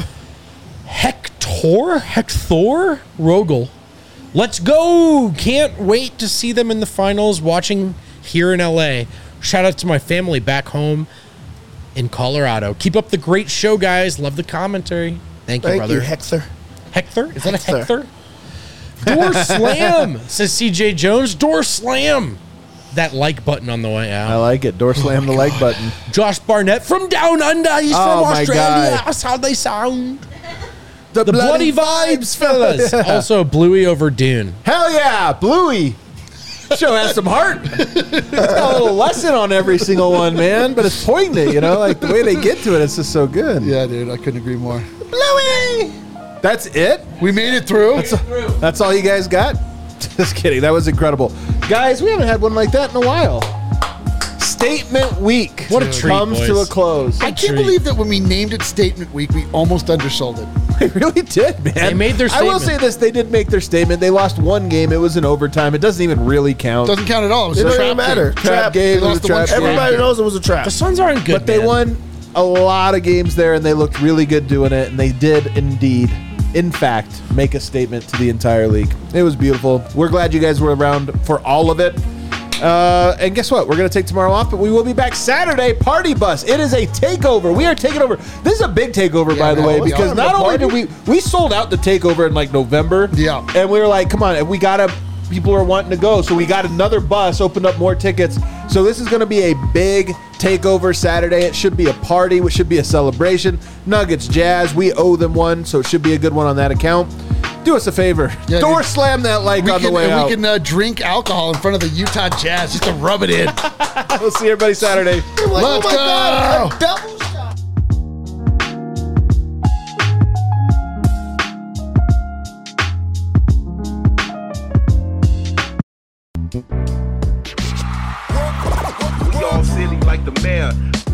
Hector Rogel. Let's go! Can't wait to see them in the finals. Watching here in LA. Shout out to my family back home in Colorado. Keep up the great show, guys. Love the commentary. Thank you, Thank brother. you, Hector. Hector? Is that a Hector. Hector? Door slam, says CJ Jones. Door slam. That like button on the way I out. like it. Door slam the like button. Josh Barnett from Down Under. He's Oh, from my Australia. God. That's how they sound. The bloody vibes, fellas. Also, Bluey over Dune. Hell yeah, Bluey. Show has some heart. It's got a little lesson on every single one, man. But it's poignant, like the way they get to it, it's just so good. Yeah, dude, I couldn't agree more. Bluey! That's it? We made it through. That's all you guys got? Just kidding. That was incredible. Guys, we haven't had one like that in a while. Statement Week. What a treat, comes boys. to a close. I can't believe that when we named it Statement Week, we almost undersold it. They really did, man. They made their I will statement. say this. They did make their statement. They lost one game. It was in overtime. It doesn't even really count. Doesn't count at all. It was It a doesn't trap even matter. game. Trap game. They It was lost a the one trap game. Everybody knows it was a trap. The Suns aren't good, But they man. won a lot of games there, and they looked really good doing it. And they did indeed, in fact, make a statement to the entire league. It was beautiful. We're glad you guys were around for all of it. And guess what? We're going to take tomorrow off, but we will be back Saturday. Party Bus. It is a takeover. We are taking over. This is a big takeover, by the man. way, Let's because go. not only did we sold out the takeover in like November. Yeah. And we were like, come on, we got to. People are wanting to go, so we got another bus, opened up more tickets. So this is going to be a big takeover Saturday. It should be a party. It should be a celebration. Nuggets, Jazz, we owe them one, so it should be a good one on that account. Do us a favor. Yeah, Door dude. slam that like on the way out. We can drink alcohol in front of the Utah Jazz just to rub it in. We'll see everybody Saturday. Let's go. God, a double shot. We all silly like the mayor.